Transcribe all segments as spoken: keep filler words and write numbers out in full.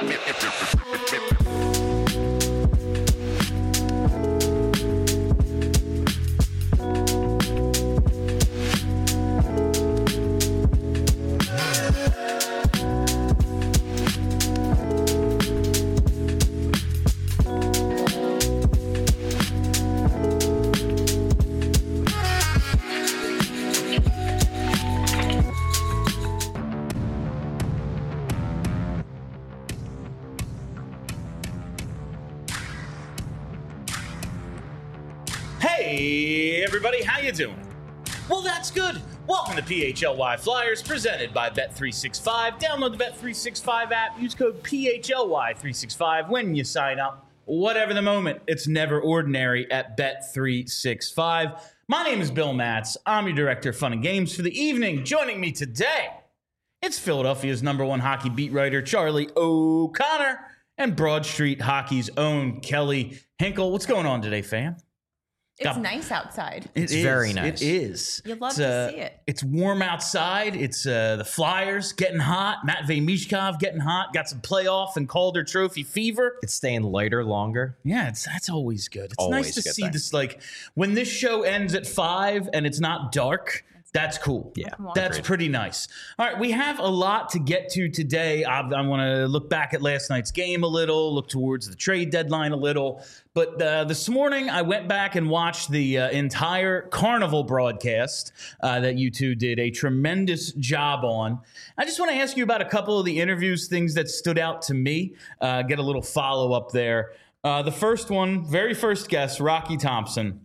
Hey everybody, how you doing? Well, that's good. Welcome to P H L Y Flyers, presented by Bet three sixty-five. Download the Bet three sixty-five app. Use code P H L Y three sixty-five when you sign up. Whatever the moment, it's never ordinary at Bet three sixty-five. My name is Bill Matz. I'm your director of fun and games for the evening. Joining me today, it's Philadelphia's number one hockey beat writer, Charlie O'Connor, and Broad Street Hockey's own Kelly Hinkle. What's going on today, fam? It's Got, nice outside. It it's is, very nice. It is. You love it's, to uh, see it. It's warm outside. It's uh, the Flyers getting hot. Matvei Michkov getting hot. Got some playoff and Calder Trophy fever. It's staying lighter longer. Yeah, it's that's always good. It's Always nice to good see thing. this. Like when this show ends at five and it's not dark. That's cool. Yeah, that's agreed. pretty nice. All right, we have a lot to get to today. I, I want to look back at last night's game a little, look towards the trade deadline a little. But uh, this morning, I went back and watched the uh, entire Carnival broadcast uh, that you two did a tremendous job on. I just want to ask you about a couple of the interviews, things that stood out to me, uh, get a little follow-up there. Uh, the first one, very first guest, Rocky Thompson.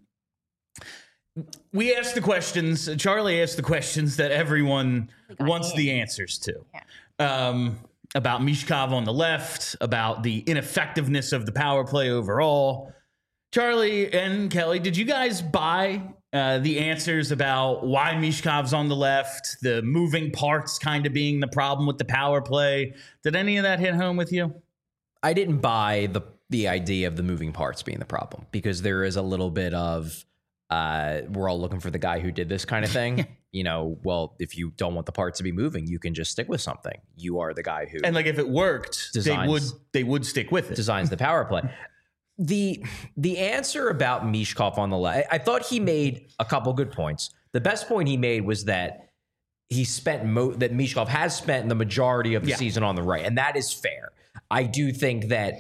We asked the questions, Charlie asked the questions that everyone wants in. the answers to. Yeah. Um, about Michkov on the left, about the ineffectiveness of the power play overall. Charlie and Kelly, did you guys buy uh, the answers about why Mishkov's on the left, the moving parts kind of being the problem with the power play? Did any of that hit home with you? I didn't buy the the idea of the moving parts being the problem because there is a little bit of uh, we're all looking for the guy who did this kind of thing. You know, well, if you don't want the parts to be moving, you can just stick with something. You are the guy who And like if it worked, Designs. they would they would stick with it. designs the power play. The the answer about Michkov on the left, I thought he made a couple good points. The best point he made was that he spent mo- that Michkov has spent the majority of the Yeah. season on the right, and that is fair. I do think that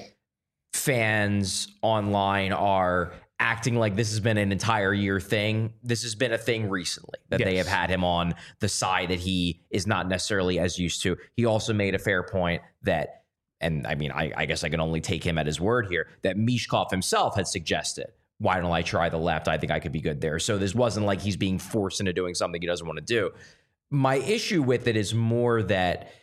fans online are acting like this has been an entire year thing. This has been a thing recently that they Yes. have had him on the side that he is not necessarily as used to. He also made a fair point that, and I mean, I, I guess I can only take him at his word here, that Michkov himself had suggested, why don't I try the left? I think I could be good there. So this wasn't like he's being forced into doing something he doesn't want to do. My issue with it is more that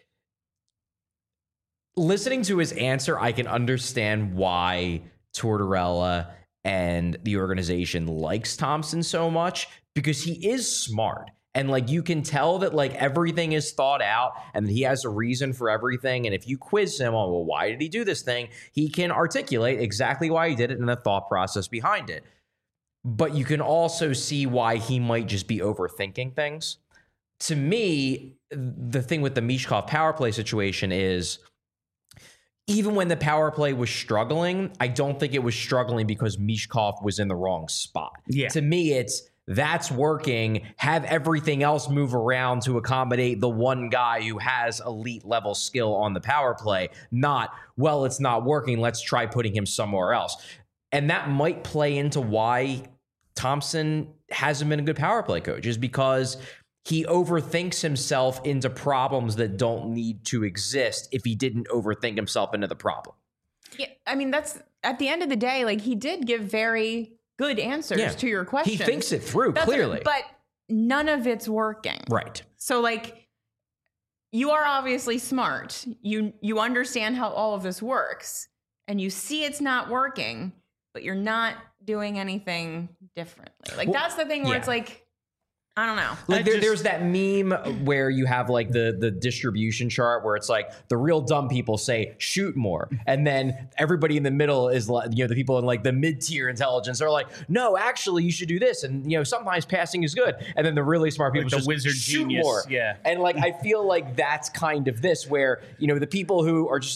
listening to his answer, I can understand why Tortorella and the organization likes Thompson so much because he is smart. And like you can tell that like everything is thought out and that he has a reason for everything. And if you quiz him on, well, why did he do this thing? He can articulate exactly why he did it and the thought process behind it. But you can also see why he might just be overthinking things. To me, the thing with the Michkov power play situation is even when the power play was struggling, I don't think it was struggling because Michkov was in the wrong spot. Yeah. To me, it's that's working. Have everything else move around to accommodate the one guy who has elite level skill on the power play. Not, well, it's not working. Let's try putting him somewhere else. And that might play into why Thompson hasn't been a good power play coach, is because he overthinks himself into problems that don't need to exist if he didn't overthink himself into the problem. Yeah, I mean, that's at the end of the day, like he did give very good answers Yeah. to your question. He thinks it through, That's clearly. it, but none of it's working. Right. So like you are obviously smart. You you understand how all of this works and you see it's not working, but you're not doing anything differently. Like Well, that's the thing where yeah. it's like, I don't know. Like I there, just- there's that meme where you have like the the distribution chart where it's like the real dumb people say shoot more, and then everybody in the middle is like, you know, the people in like the mid tier intelligence are like, no, actually you should do this, and you know sometimes passing is good, and then the really smart people Like the just wizard shoot genius, more. yeah. And like I feel like that's kind of this where you know the people who are just like,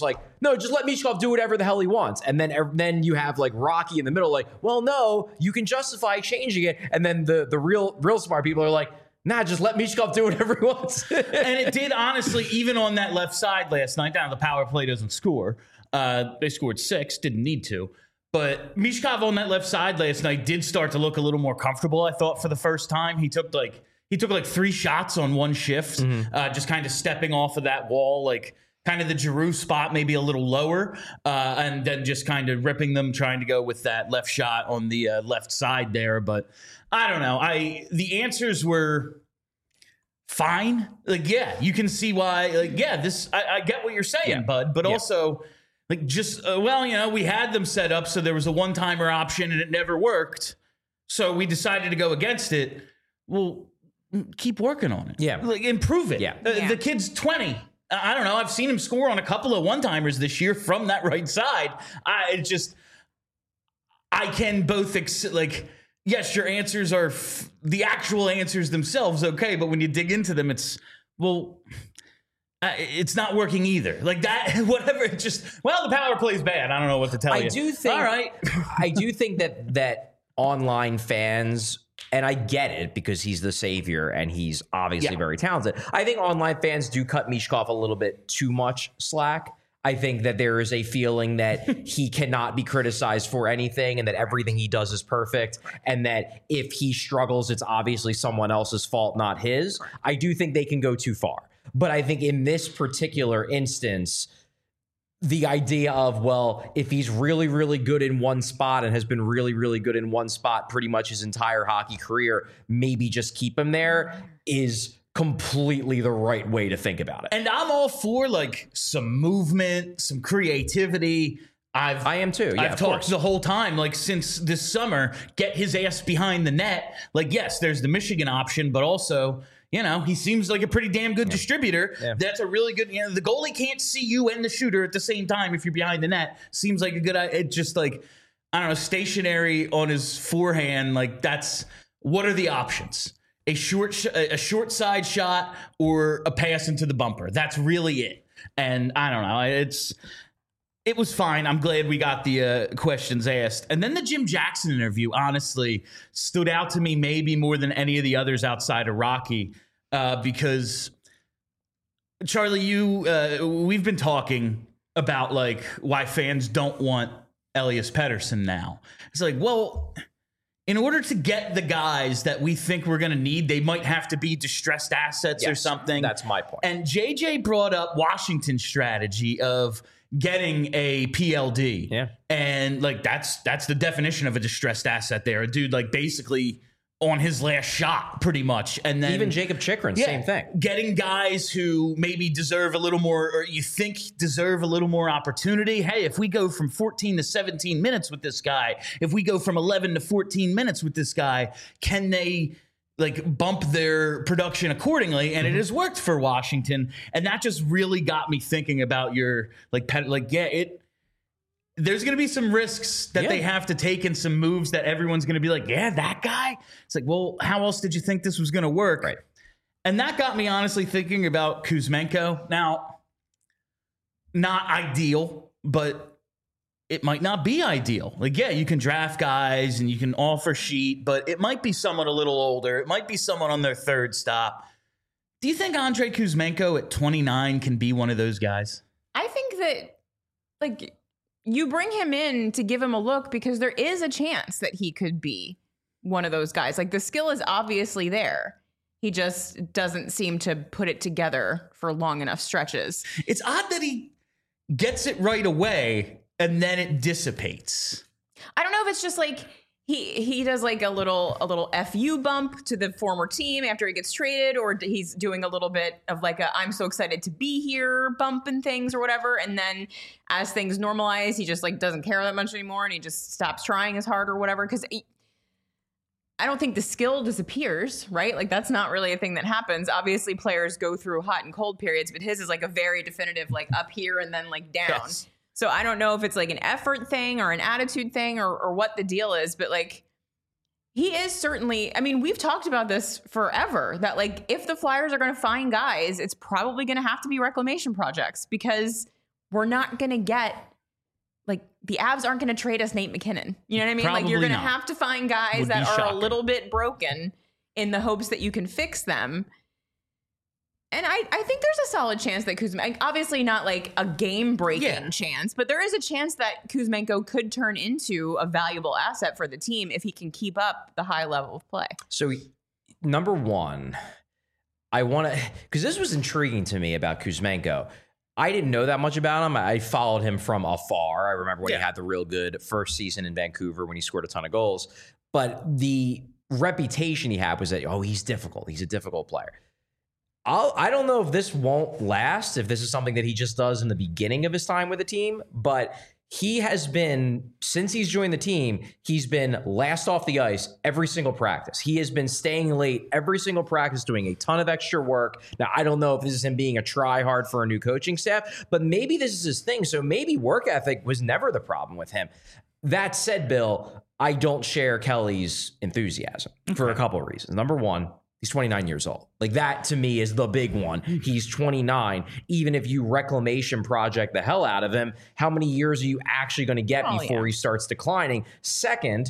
no, just let Michkov do whatever the hell he wants. And then then you have like Rocky in the middle, like, well, no, you can justify changing it. And then the the real real smart people are like, nah, just let Michkov do whatever he wants. And it did, honestly, even on that left side last night. Down the power play doesn't score. Uh, they scored six, didn't need to. But Michkov on that left side last night did start to look a little more comfortable, I thought, for the first time. He took like he took like three shots on one shift, mm-hmm. uh, just kind of stepping off of that wall, like kind of the Giroux spot, maybe a little lower, uh, and then just kind of ripping them, trying to go with that left shot on the uh, left side there. But I don't know. I the answers were fine. Like, yeah, you can see why. Like, yeah, this I, I get what you're saying, yeah. bud. But yeah. also. Like just, uh, well, you know, we had them set up so there was a one-timer option and it never worked. So we decided to go against it. Well, keep working on it. Yeah. Like improve it. Yeah. Uh, yeah. The kid's twenty. I don't know. I've seen him score on a couple of one-timers this year from that right side. I it just, I can both, ex- like, yes, your answers are, f- the actual answers themselves, okay. But when you dig into them, it's, well... Uh, it's not working either. Like that, whatever. It just well, the power play is bad. I don't know what to tell I you. I do think. All right. I do think that that online fans, and I get it because he's the savior and he's obviously yeah. very talented. I think online fans do cut Michkov a little bit too much slack. I think that there is a feeling that he cannot be criticized for anything and that everything he does is perfect and that if he struggles, it's obviously someone else's fault, not his. I do think they can go too far. But I think in this particular instance, the idea of, well, if he's really, really good in one spot and has been really, really good in one spot pretty much his entire hockey career, maybe just keep him there is completely the right way to think about it. And I'm all for like some movement, some creativity. I've I am too. Yeah, I've talked course. the whole time, like since this summer, get his ass behind the net. Like, yes, there's the Michigan option, but also, you know, he seems like a pretty damn good yeah. distributor. Yeah. That's a really good, you know, the goalie can't see you and the shooter at the same time if you're behind the net. Seems like a good, it just like, I don't know, stationary on his forehand. Like that's, what are the options? A short, sh- a short side shot or a pass into the bumper. That's really it. And I don't know, it's, it was fine. I'm glad we got the uh, questions asked. And then the Jim Jackson interview, honestly, stood out to me maybe more than any of the others outside of Rocky. Uh, because, Charlie, you uh, we've been talking about, like, why fans don't want Elias Pettersson now. It's like, well, in order to get the guys that we think we're going to need, they might have to be distressed assets yes, or something. That's my point. And J J brought up Washington's strategy of getting a P L D. Yeah. And like that's that's the definition of a distressed asset there. A dude like basically on his last shot pretty much. And then even Jacob Chikrin, yeah, same thing. Getting guys who maybe deserve a little more or you think deserve a little more opportunity. Hey, if we go from fourteen to seventeen minutes with this guy, if we go from eleven to fourteen minutes with this guy, can they like bump their production accordingly? And mm-hmm. it has worked for Washington. And that just really got me thinking about your like pet, like, yeah, it, there's going to be some risks that yeah. they have to take and some moves that everyone's going to be like, yeah, that guy. It's like, well, how else did you think this was going to work? Right. And that got me honestly thinking about Kuzmenko. Now, not ideal, but it might not be ideal. Like, yeah, you can draft guys and you can offer sheet, but it might be someone a little older. It might be someone on their third stop. Do you think Andrei Kuzmenko at twenty-nine can be one of those guys? I think that, like, you bring him in to give him a look because there is a chance that he could be one of those guys. Like, the skill is obviously there. He just doesn't seem to put it together for long enough stretches. It's odd that he gets it right away and then it dissipates. I don't know if it's just like he he does like a little a little F U bump to the former team after he gets traded, or he's doing a little bit of like a I'm so excited to be here bump and things or whatever. And then as things normalize, he just like doesn't care that much anymore and he just stops trying as hard or whatever. Because I don't think the skill disappears, right? Like that's not really a thing that happens. Obviously, players go through hot and cold periods, but his is like a very definitive like up here and then like down. Yes. So I don't know if it's like an effort thing or an attitude thing or, or what the deal is, but like he is certainly, I mean, we've talked about this forever that like if the Flyers are going to find guys, it's probably going to have to be reclamation projects because we're not going to get, like, the Avs aren't going to trade us Nate McKinnon. You know what I mean? Probably like, you're going to not. have to find guys Would that be are shocking. a little bit broken in the hopes that you can fix them. And I, I think there's a solid chance that Kuzmenko, obviously not like a game-breaking Yeah. chance, but there is a chance that Kuzmenko could turn into a valuable asset for the team if he can keep up the high level of play. So, number one, I want to, because this was intriguing to me about Kuzmenko. I didn't know that much about him. I followed him from afar. I remember when Yeah. he had the real good first season in Vancouver when he scored a ton of goals. But the reputation he had was that, oh, he's difficult. He's a difficult player. I'll, I don't know if this won't last, if this is something that he just does in the beginning of his time with the team, but he has been, since he's joined the team, he's been last off the ice every single practice. He has been staying late every single practice, doing a ton of extra work. Now, I don't know if this is him being a try-hard for a new coaching staff, but maybe this is his thing. So maybe work ethic was never the problem with him. That said, Bill, I don't share Kelly's enthusiasm for a couple of reasons. Number one, he's twenty-nine years old. Like, that to me is the big one. He's twenty-nine. Even if you reclamation project the hell out of him, how many years are you actually going to get Oh, before yeah. he starts declining? Second,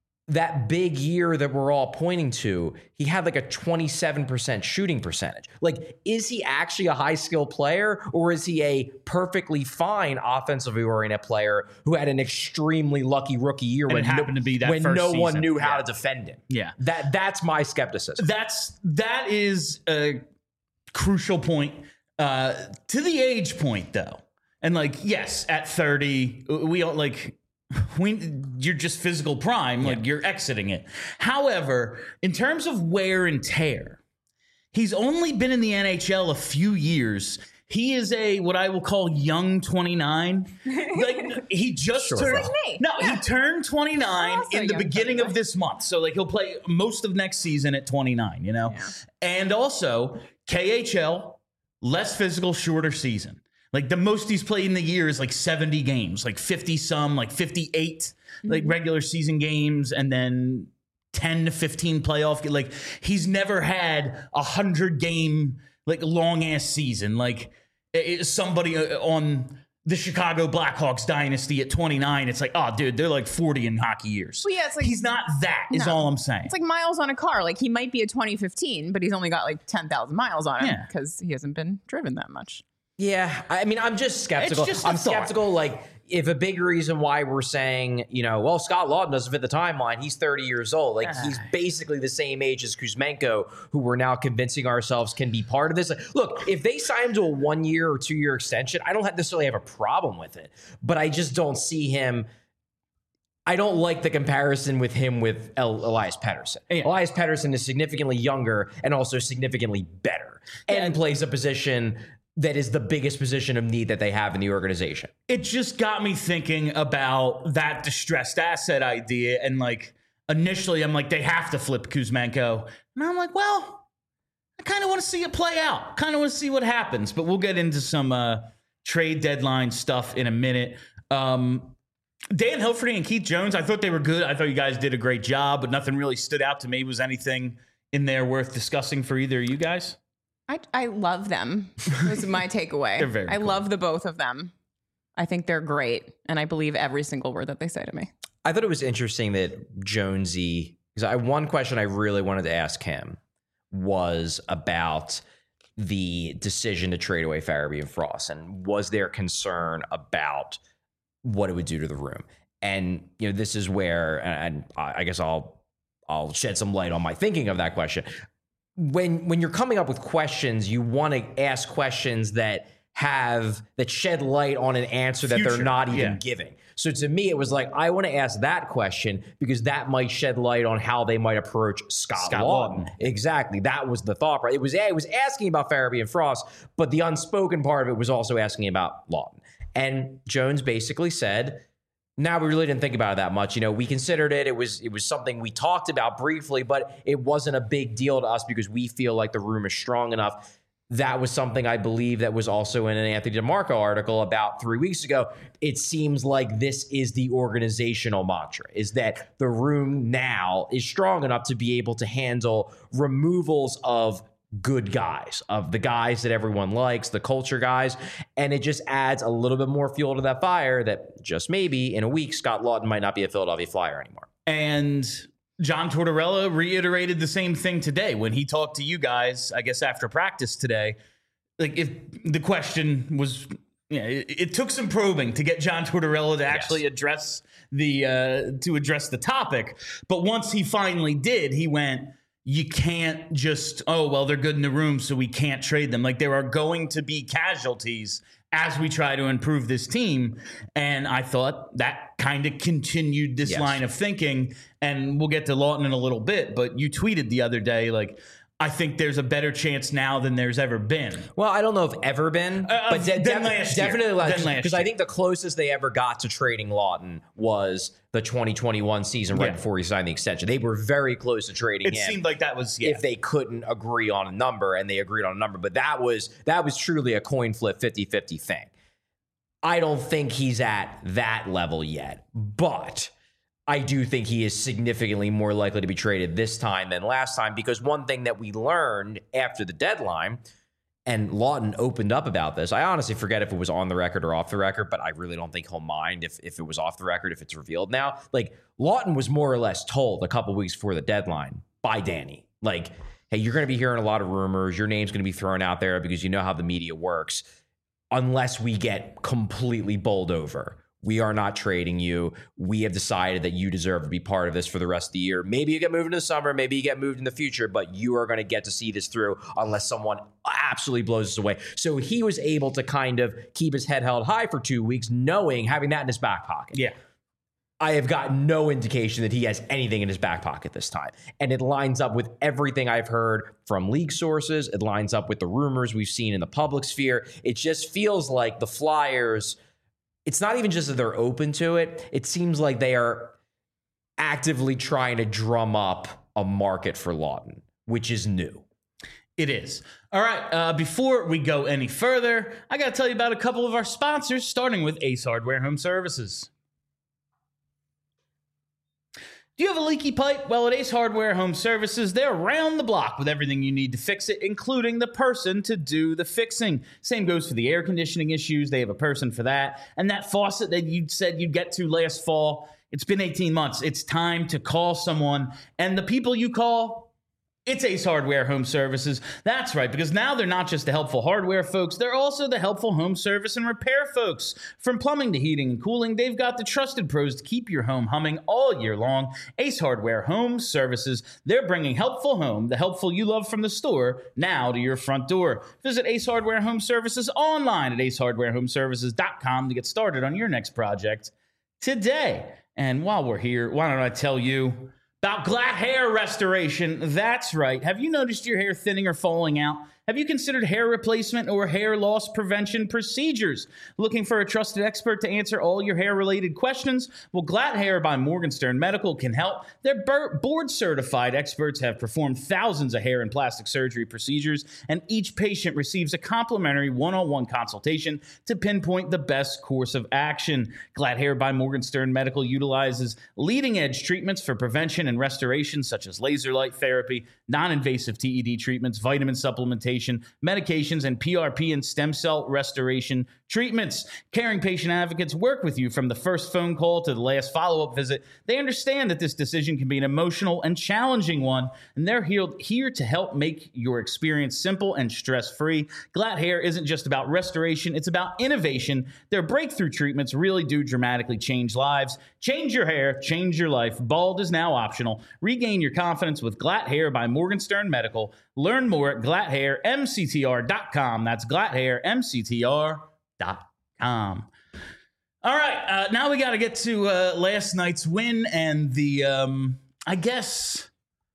that big year that we're all pointing to, he had like a twenty-seven percent shooting percentage. Like, is he actually a high skill player, or is he a perfectly fine offensively oriented player who had an extremely lucky rookie year And when it happened to be that when first no one season. knew how Yeah. to defend him? Yeah. That that's my skepticism. That's that is a crucial point. Uh, to the age point, though, and like, yes, at thirty, we all like. We, you're just physical prime, like you're exiting it. However, in terms of wear and tear, he's only been in the N H L a few years. He is a what I will call young twenty-nine. Like, he just Sure. turned. Like me. No, Yeah. he turned twenty-nine Also in the young beginning of twenty-nine. this month. So like he'll play most of next season at twenty-nine. You know, Yeah. and also K H L, less physical, shorter season. Like, the most he's played in the year is like seventy games, like fifty some, like fifty-eight, like regular season games, and then ten to fifteen playoff. Like, he's never had a hundred game, like, long ass season. Like, it, somebody uh, on the Chicago Blackhawks dynasty at twenty-nine, it's like, oh, dude, they're like forty in hockey years. Well, yeah, it's like- he's not that, is No. all I'm saying. It's like miles on a car. Like, he might be a twenty fifteen, but he's only got like ten thousand miles on him Yeah. because he hasn't been driven that much. Yeah, I mean, I'm just skeptical. It's just a I'm thought. skeptical, like, if a big reason why we're saying, you know, well, Scott Lawton doesn't fit the timeline. He's thirty years old. Like, he's basically the same age as Kuzmenko, who we're now convincing ourselves can be part of this. Like, look, if they sign him to a one-year or two-year extension, I don't have- necessarily have a problem with it. But I just don't see him... I don't like the comparison with him with El- Elias Pettersson. Yeah. Elias Pettersson is significantly younger and also significantly better and plays a position that is the biggest position of need that they have in the organization. It just got me thinking about that distressed asset idea. And like, initially I'm like, they have to flip Kuzmenko. And I'm like, well, I kind of want to see it play out. Kind of want to see what happens, but we'll get into some uh, trade deadline stuff in a minute. Um, Dan Hilferty and Keith Jones, I thought they were good. I thought you guys did a great job, but nothing really stood out to me. Was anything in there worth discussing for either of you guys? I, I love them. Was my takeaway. They're very I cool. love the both of them. I think they're great, and I believe every single word that they say to me. I thought it was interesting that Jonesy, because I one question I really wanted to ask him was about the decision to trade away Farabee and Frost, and was there concern about what it would do to the room? And you know, this is where, and I guess I'll I'll shed some light on my thinking of that question. When when you're coming up with questions, you want to ask questions that have that shed light on an answer that they're Future, not even yeah. giving. So to me, it was like, I want to ask that question because that might shed light on how they might approach Scott, Scott Lawton. Lawton. Exactly. That was the thought. Right? It was it was asking about Farabee and Frost, but the unspoken part of it was also asking about Lawton. And Jones basically said, now we really didn't think about it that much. You know, we considered it. It was it was something we talked about briefly, but it wasn't a big deal to us because we feel like the room is strong enough. That was something I believe that was also in an Anthony DeMarco article about three weeks ago. It seems like this is the organizational mantra, is that the room now is strong enough to be able to handle removals of good guys, of the guys that everyone likes, the culture guys. And it just adds a little bit more fuel to that fire that just maybe in a week, Scott Lawton might not be a Philadelphia Flyer anymore. And John Tortorella reiterated the same thing today when he talked to you guys, I guess, after practice today. Like, if the question was, you know, it, it took some probing to get John Tortorella to actually Yes. address the uh, to address the topic. But once he finally did, he went, you can't just, oh, well, they're good in the room, so we can't trade them. Like, there are going to be casualties as we try to improve this team. And I thought that kind of continued this Yes. line of thinking. And we'll get to Lawton in a little bit, but you tweeted the other day, like, I think there's a better chance now than there's ever been. Well, I don't know if ever been, Uh, but de- than de- last year. definitely last Than last because I year. think the closest they ever got to trading Lawton was the twenty twenty-one season right Yeah. before he signed the extension. They were very close to trading It him. seemed like that was, yeah. If they couldn't agree on a number, and they agreed on a number, but that was that was truly a coin flip fifty-fifty thing. I don't think he's at that level yet, but I do think he is significantly more likely to be traded this time than last time, because one thing that we learned after the deadline, and Lawton opened up about this, I honestly forget if it was on the record or off the record, but I really don't think he'll mind if, if it was off the record, if it's revealed now. Like, Lawton was more or less told a couple weeks before the deadline by Danny, like, hey, you're going to be hearing a lot of rumors. Your name's going to be thrown out there because you know how the media works. Unless we get completely bowled over, we are not trading you. We have decided that you deserve to be part of this for the rest of the year. Maybe you get moved in the summer, maybe you get moved in the future, but you are going to get to see this through unless someone absolutely blows us away. So he was able to kind of keep his head held high for two weeks, knowing, having that in his back pocket. Yeah. I have got no indication that he has anything in his back pocket this time. And it lines up with everything I've heard from league sources. It lines up with the rumors we've seen in the public sphere. It just feels like the Flyers, it's not even just that they're open to it. It seems like they are actively trying to drum up a market for Lawton, which is new. It is. All right. Uh, before we go any further, I got to tell you about a couple of our sponsors, starting with Ace Hardware Home Services. Do you have a leaky pipe? Well, at Ace Hardware Home Services, they're around the block with everything you need to fix it, including the person to do the fixing. Same goes for the air conditioning issues. They have a person for that. And that faucet that you said you'd get to last fall, it's been eighteen months. It's time to call someone. And the people you call, it's Ace Hardware Home Services. That's right, because now they're not just the helpful hardware folks, they're also the helpful home service and repair folks. From plumbing to heating and cooling, they've got the trusted pros to keep your home humming all year long. Ace Hardware Home Services, they're bringing helpful home, the helpful you love from the store, now to your front door. Visit Ace Hardware Home Services online at ace hardware home services dot com to get started on your next project today. And while we're here, why don't I tell you about Glatt Hair Restoration. That's right. Have you noticed your hair thinning or falling out? Have you considered hair replacement or hair loss prevention procedures? Looking for a trusted expert to answer all your hair-related questions? Well, Glatt Hair by Morgenstern Medical can help. Their board-certified experts have performed thousands of hair and plastic surgery procedures, and each patient receives a complimentary one-on-one consultation to pinpoint the best course of action. Glatt Hair by Morgenstern Medical utilizes leading-edge treatments for prevention and restoration, such as laser light therapy, non-invasive T E D treatments, vitamin supplementation, medications, and P R P and stem cell restoration treatments. Caring patient advocates work with you from the first phone call to the last follow-up visit. They understand that this decision can be an emotional and challenging one, and they're here to help make your experience simple and stress-free. Glatt Hair isn't just about restoration, it's about innovation. Their breakthrough treatments really do dramatically change lives. Change your hair, change your life. Bald is now optional. Regain your confidence with Glatt Hair by Morgenstern Medical. Learn more at glatt hair m c t r dot com. That's glatt hair m c t r dot com. All right, uh, now we got to get to uh, last night's win and the, um, I guess,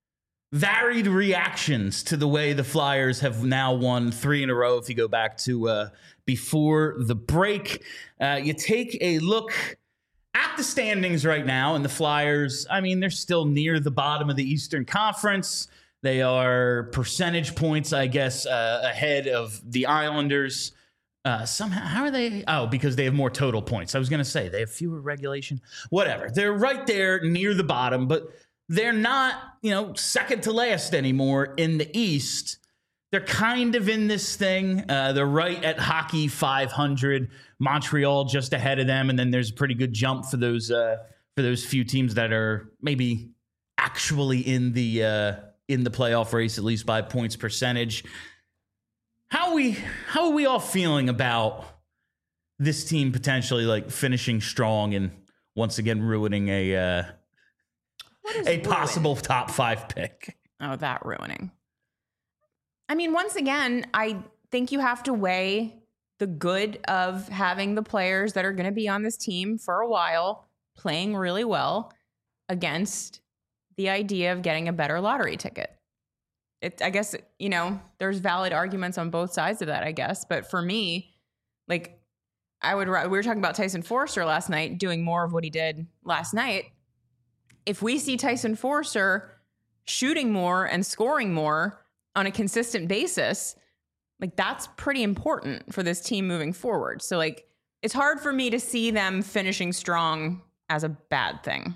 varied reactions to the way the Flyers have now won three in a row. If you go back to uh, before the break, uh, you take a look at the standings right now, and the Flyers, I mean, they're still near the bottom of the Eastern Conference. They are percentage points, I guess, uh, ahead of the Islanders. Uh, somehow, how are they? Oh, because they have more total points. I was going to say they have fewer regulation. Whatever. They're right there near the bottom, but they're not, you know, second to last anymore in the East. they're kind of in this thing. Uh, they're right at hockey five hundred. Montreal just ahead of them, and then there's a pretty good jump for those uh, for those few teams that are maybe actually in the uh, in the playoff race, at least by points percentage. How are we how are we all feeling about this team potentially like finishing strong and once again ruining a uh, a ruin? possible top five pick? Oh, that ruining. I mean, once again, I think you have to weigh the good of having the players that are going to be on this team for a while playing really well against the idea of getting a better lottery ticket. It, I guess, you know, there's valid arguments on both sides of that, I guess. But for me, like, I would, we were talking about Tyson Forster last night, doing more of what he did last night. If we see Tyson Forster shooting more and scoring more on a consistent basis, like, that's pretty important for this team moving forward. So, like, it's hard for me to see them finishing strong as a bad thing.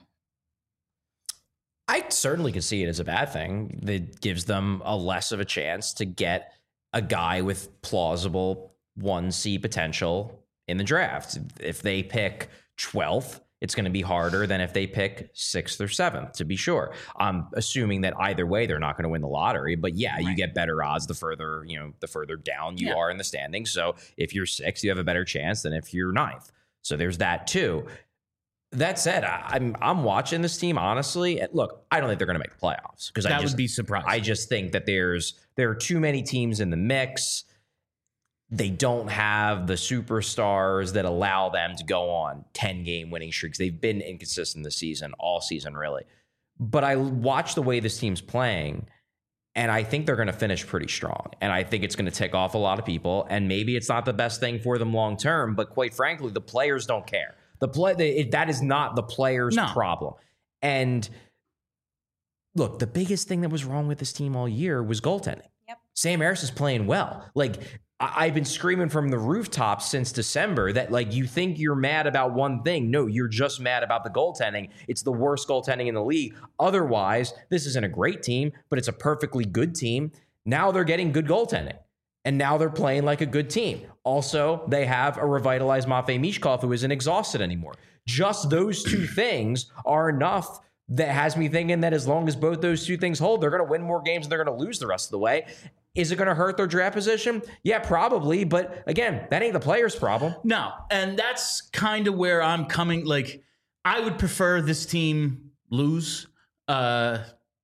I certainly could see it as a bad thing. That gives them a less of a chance to get a guy with plausible one C potential in the draft. If they pick twelfth, it's going to be harder than if they pick sixth or seventh, to be sure. I'm assuming that either way, they're not going to win the lottery. But yeah, right. You get better odds the further, you know, the further down you yeah. are in the standings. So if you're sixth, you have a better chance than if you're ninth. So there's that too. That said, I, I'm I'm watching this team honestly. And look, I don't think they're going to make the playoffs because that I just, would be surprising. I just think that there's there are too many teams in the mix. They don't have the superstars that allow them to go on ten game winning streaks. They've been inconsistent this season, all season really. But I watch the way this team's playing, and I think they're going to finish pretty strong. And I think it's going to tick off a lot of people. And maybe it's not the best thing for them long term, but quite frankly, the players don't care. The play the, it, that is not the players' no. problem. And look, the biggest thing that was wrong with this team all year was goaltending. Yep. Sam Harris is playing well. Like, I, I've been screaming from the rooftops since December that, like, you think you're mad about one thing. No, you're just mad about the goaltending. It's the worst goaltending in the league. Otherwise, this isn't a great team, but it's a perfectly good team. Now they're getting good goaltending. And now they're playing like a good team. Also, they have a revitalized Matvei Michkov who isn't exhausted anymore. Just those two things are enough that has me thinking that as long as both those two things hold, they're going to win more games and they're going to lose the rest of the way. Is it going to hurt their draft position? Yeah, probably. But again, that ain't the player's problem. No. And that's kind of where I'm coming. Like, I would prefer this team lose. Uh,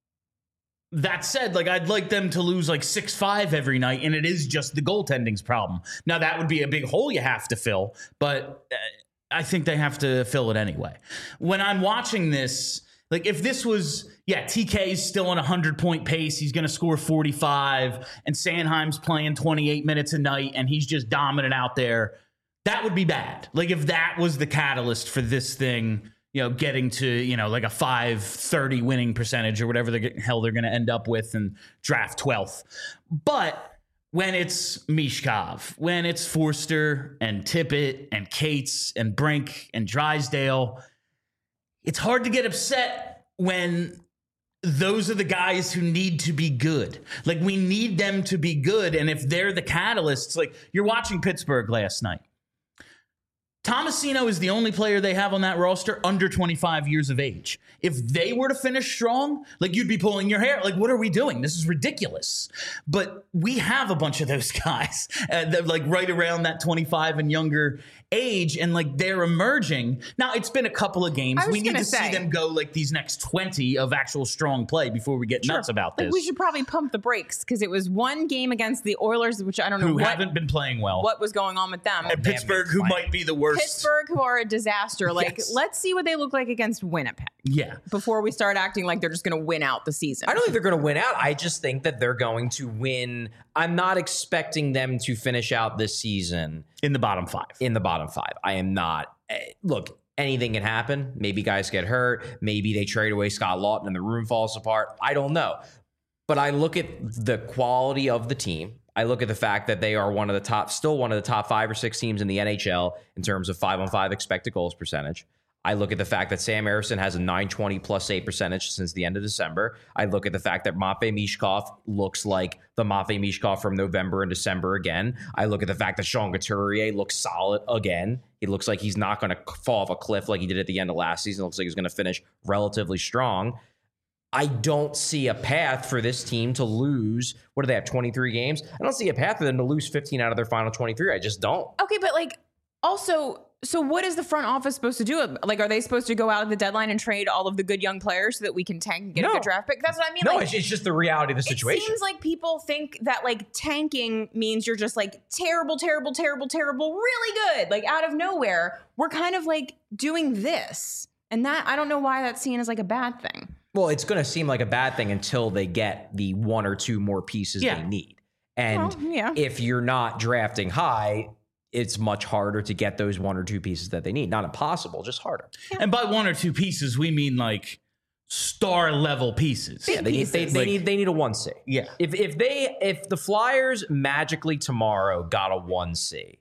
That said, like, I'd like them to lose like six five every night, and it is just the goaltending's problem. Now, that would be a big hole you have to fill, but uh, I think they have to fill it anyway. When I'm watching this, like, if this was, yeah, T K's still on a hundred-point pace, he's going to score forty-five, and Sanheim's playing twenty-eight minutes a night, and he's just dominant out there, that would be bad. Like, if that was the catalyst for this thing, you know, getting to, you know, like a five thirty winning percentage or whatever the hell they're going to end up with and draft twelfth. But when it's Michkov, when it's Forster and Tippett and Cates and Brink and Drysdale, it's hard to get upset when those are the guys who need to be good. Like, we need them to be good. And if they're the catalysts, like, you're watching Pittsburgh last night. Tomasino is the only player they have on that roster under twenty-five years of age. If they were to finish strong, like, you'd be pulling your hair. Like, what are we doing? This is ridiculous. But we have a bunch of those guys uh, that, like, right around that twenty-five and younger age, and, like, they're emerging. Now, it's been a couple of games. We need to say, see them go, like, these next twenty of actual strong play before we get sure. nuts about this. Like, we should probably pump the brakes because it was one game against the Oilers, which I don't know who what, haven't been playing well. What was going on with them? And Pittsburgh, who might be the worst. Pittsburgh, who are a disaster. Like, yes. Let's see what they look like against Winnipeg. Yeah. Before we start acting like they're just going to win out the season. I don't think they're going to win out. I just think that they're going to win. I'm not expecting them to finish out this season in the bottom five. In the bottom five. I am not. Look, anything can happen. Maybe guys get hurt. Maybe they trade away Scott Lawton and the room falls apart. I don't know. But I look at the quality of the team. I look at the fact that they are one of the top, still one of the top five or six teams in the N H L in terms of five on five expected goals percentage. I look at the fact that Sam Ersson has a nine twenty plus save percentage since the end of December. I look at the fact that Matvei Michkov looks like the Matvei Michkov from November and December again. I look at the fact that Sean Couturier looks solid again. He looks like he's not going to fall off a cliff like he did at the end of last season. It looks like he's going to finish relatively strong. I don't see a path for this team to lose. What do they have, twenty-three games? I don't see a path for them to lose fifteen out of their final twenty-three. I just don't. Okay, but like also, so what is the front office supposed to do? Like, are they supposed to go out at the deadline and trade all of the good young players so that we can tank and get No. a good draft pick? That's what I mean. No, like, it's, it's just the reality of the situation. It seems like people think that like tanking means you're just like terrible, terrible, terrible, terrible, really good. Like out of nowhere, we're kind of like doing this. And that, I don't know why that's seen as like a bad thing. Well, it's going to seem like a bad thing until they get the one or two more pieces Yeah. they need. And Well, yeah. if you're not drafting high, it's much harder to get those one or two pieces that they need. Not impossible, just harder. And by one or two pieces, we mean like star level pieces. Yeah, they need they, pieces. they Like- need they need a one C. Yeah. If if they if the Flyers magically tomorrow got a one C,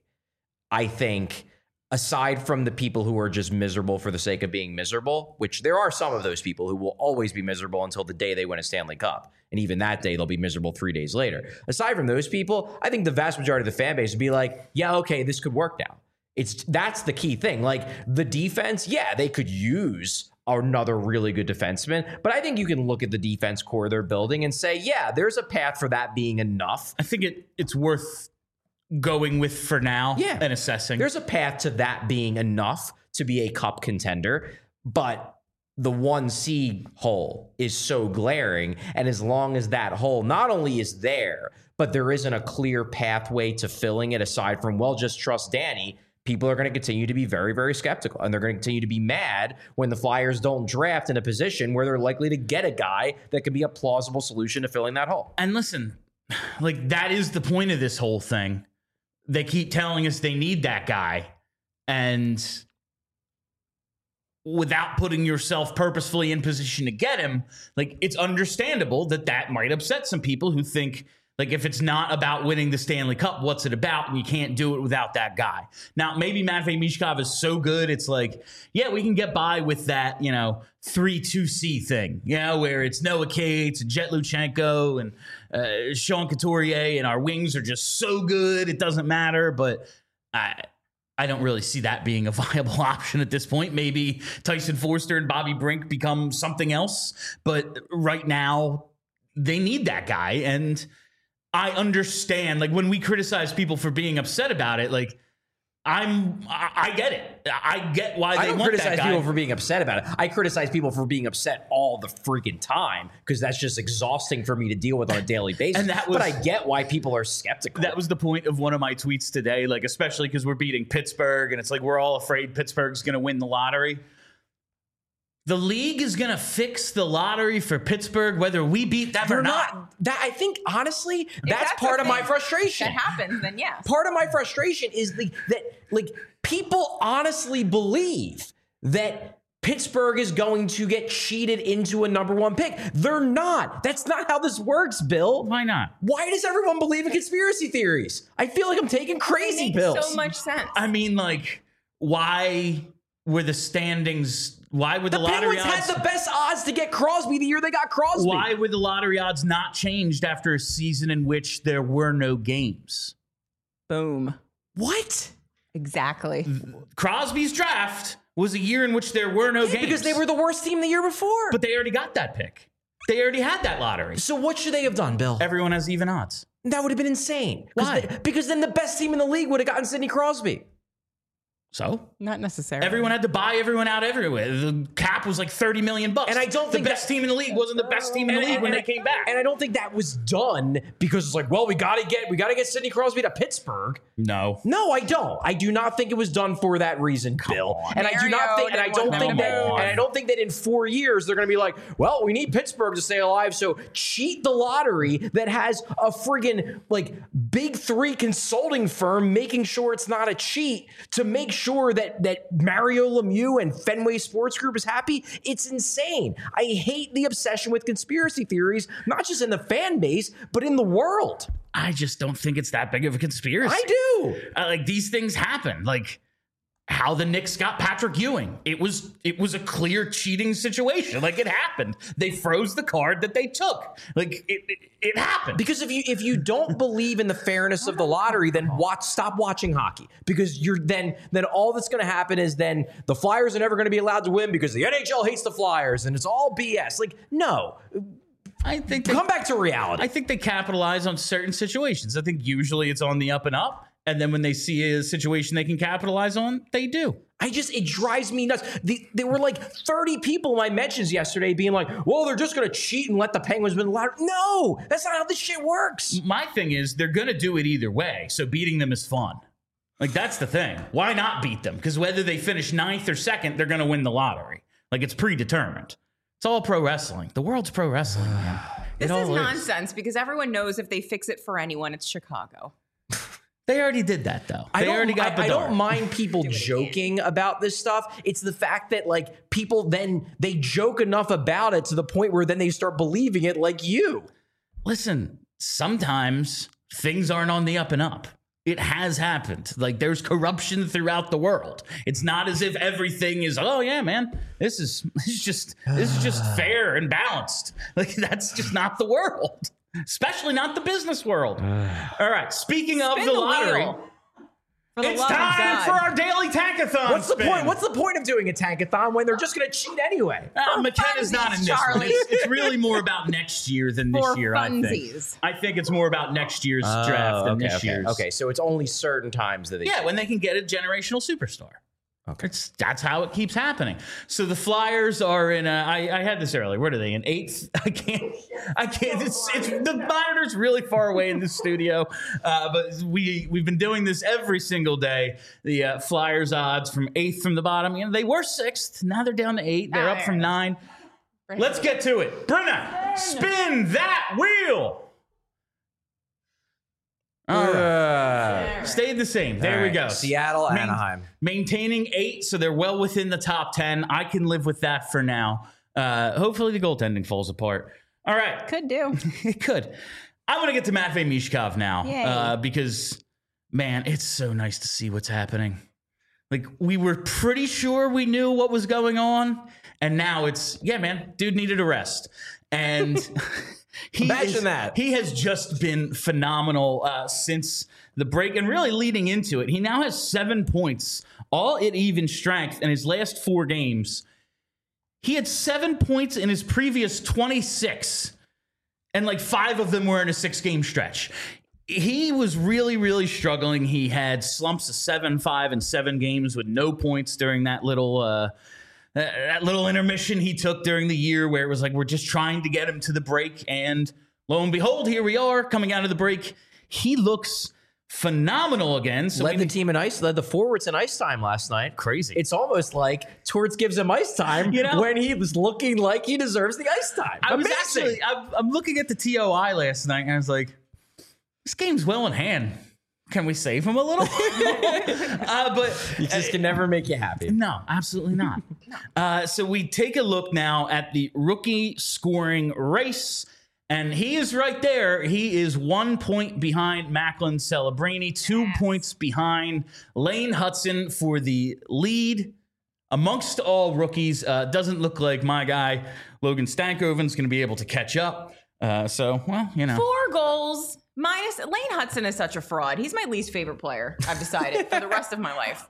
I think aside from the people who are just miserable for the sake of being miserable, which there are some of those people who will always be miserable until the day they win a Stanley Cup. And even that day, they'll be miserable three days later. Aside from those people, I think the vast majority of the fan base would be like, yeah, okay, this could work now. It's that's the key thing. Like the defense, yeah, they could use another really good defenseman, but I think you can look at the defense core they're building and say, yeah, there's a path for that being enough. I think it it's worth going with for now Yeah. and assessing. There's a path to that being enough to be a cup contender, but the one C hole is so glaring. And as long as that hole not only is there, but there isn't a clear pathway to filling it aside from, well, just trust Danny, people are going to continue to be very, very skeptical. And they're going to continue to be mad when the Flyers don't draft in a position where they're likely to get a guy that could be a plausible solution to filling that hole. And listen, like that is the point of this whole thing. They keep telling us they need that guy. And without putting yourself purposefully in position to get him, like it's understandable that that might upset some people who think, like, if it's not about winning the Stanley Cup, what's it about? And you can't do it without that guy. Now, maybe Matvei Michkov is so good, it's like, yeah, we can get by with that, you know, three two C thing, you know, where it's Noah Cates and Jet Luchenko and uh, Sean Couturier, and our wings are just so good, it doesn't matter. But I, I don't really see that being a viable option at this point. Maybe Tyson Forster and Bobby Brink become something else. But right now, they need that guy. And I understand, like, when we criticize people for being upset about it, like, I'm, I, I get it. I get why they I don't want criticize that guy. people for being upset about it. I criticize people for being upset all the freaking time because that's just exhausting for me to deal with on a daily basis. And that was- but I get why people are skeptical. That was the point of one of my tweets today, like, especially because we're beating Pittsburgh and it's like we're all afraid Pittsburgh's going to win the lottery. The league is going to fix the lottery for Pittsburgh, whether we beat them They're or not. not. That I think honestly, If that's, that's part the of my thing frustration. That happens, then yes. Part of my frustration is the that like people honestly believe that Pittsburgh is going to get cheated into a number one pick. They're not. That's not how this works, Bill. Why not? Why does everyone believe in conspiracy theories? I feel like I'm taking crazy It makes pills. so much sense. I mean, like, why were the standings? Why were the, The lottery Penguins odds? had the best odds to get Crosby the year they got Crosby. Why were the lottery odds not changed after a season in which there were no games? Boom. What? Exactly. Crosby's draft was a year in which there were no Yeah, games because they were the worst team the year before. but they already got that pick. They already had that lottery. So what should they have done, Bill? Everyone has even odds. That would have been insane. 'Cause Why? they- because then the best team in the league would have gotten Sidney Crosby. So Not necessarily. everyone had to buy everyone out everywhere. The cap was like thirty million bucks. And I don't the think best that- team in the league wasn't the best team in the And- league and- when they and- came back. And I don't think that was done because it's like, well, we gotta get we gotta get Sidney Crosby to Pittsburgh. No. No, I don't. I do not think it was done for that reason, Bill. on. And I do not Mario think, and I didn't don't want think them that, to move. and I don't think that in four years they're going to be like, well, we need Pittsburgh to stay alive, so cheat the lottery that has a friggin' like big three consulting firm making sure it's not a cheat to make sure that that Mario Lemieux and Fenway Sports Group is happy. It's insane. I hate the obsession with conspiracy theories, not just in the fan base, but in the world. I just don't think it's that big of a conspiracy. I do. Uh, like, these things happen. Like, how the Knicks got Patrick Ewing. It was it was a clear cheating situation. Like, it happened. They froze the card that they took. Like, it it, it happened. Because if you if you don't believe in the fairness of the lottery, then watch stop watching hockey. Because you're then then all that's going to happen is then the Flyers are never going to be allowed to win because the N H L hates the Flyers and it's all B S. Like, no. I think they, Come back to reality. I think they capitalize on certain situations. I think usually it's on the up and up. And then when they see a situation they can capitalize on, they do. I just, it drives me nuts. The, there were like thirty people in my mentions yesterday being like, well, they're just going to cheat and let the Penguins win the lottery. No, that's not how this shit works. My thing is they're going to do it either way. So beating them is fun. Like, that's the thing. Why not beat them? Because whether they finish ninth or second, they're going to win the lottery. Like, it's predetermined. It's all pro wrestling. The world's pro wrestling, man. This It is all nonsense because everyone knows if they fix it for anyone, it's Chicago. They already did that, though. I They don't, already got I, I Bedard. don't mind people joking about this stuff. It's the fact that like people then they joke enough about it to the point where then they start believing it like you. Listen, sometimes things aren't on the up and up. It has happened. Like, there's corruption throughout the world. It's not as if everything is, oh yeah, man, this is this is just this is just fair and balanced. Like, that's just not the world. Especially not the business world. All right. Speaking of Spin the, the lottery, wheel. For the it's love of time God. for our daily tankathon. What's the spin. point? What's the point of doing a tankathon when they're just going to cheat anyway? Uh, McKenna's not in this one. Charlie. It's, it's really more about next year than this For year, I think. funsies. I think it's more about next year's draft than okay, this okay. year's. Okay, so it's only certain times that they. Yeah, when they can get a generational superstar. Okay. It's, that's how it keeps happening. So the Flyers are in a, I, I had this earlier. What are they, in eighth? I can't, I can't, it's, it's the monitor's really far away in the studio. Uh, but we, we've been doing this every single day. The uh, Flyers odds from eighth from the bottom. You know, they were sixth. Now they're down to eight. They're Ah, up there from it is. nine. Let's get to it. Brenna, spin that wheel. All right. Uh, Stayed the same. There all we right. go. Seattle, Main- Anaheim. Maintaining eight, so they're well within the top ten. I can live with that for now. Uh, hopefully the goaltending falls apart. All right. Could do. It could. I'm going to get to Matvei Mishkov now Yay. uh, because, man, it's so nice to see what's happening. Like, we were pretty sure we knew what was going on, and now it's, yeah, man, dude needed a rest. And he Imagine is- that. He has just been phenomenal uh, since the break and really leading into it. He now has seven points, all at even strength in his last four games. He had seven points in his previous twenty-six, and like five of them were in a six-game stretch. He was really, really struggling. He had slumps of seven, five, and seven games with no points during that little uh, that little intermission he took during the year where it was like, we're just trying to get him to the break. And lo and behold, here we are coming out of the break. He looks phenomenal again. So led we- the team in ice, led the forwards in ice time last night. Crazy. It's almost like Torts gives him ice time You know- when he was looking like he deserves the ice time. I was Amazing. actually, I'm, I'm looking at the T O I last night, and I was like, this game's well in hand. Can we save him a little? uh, but He just can never make you happy. no, absolutely not. uh, so we take a look now at the rookie scoring race, and he is right there. He is one point behind Macklin Celebrini, two Yes. points behind Lane Hudson for the lead. Amongst all rookies, uh, doesn't look like my guy, Logan Stankoven's going to be able to catch up. Uh, so, well, you know. Four goals minus Lane Hudson is such a fraud. He's my least favorite player. I've decided for the rest of my life.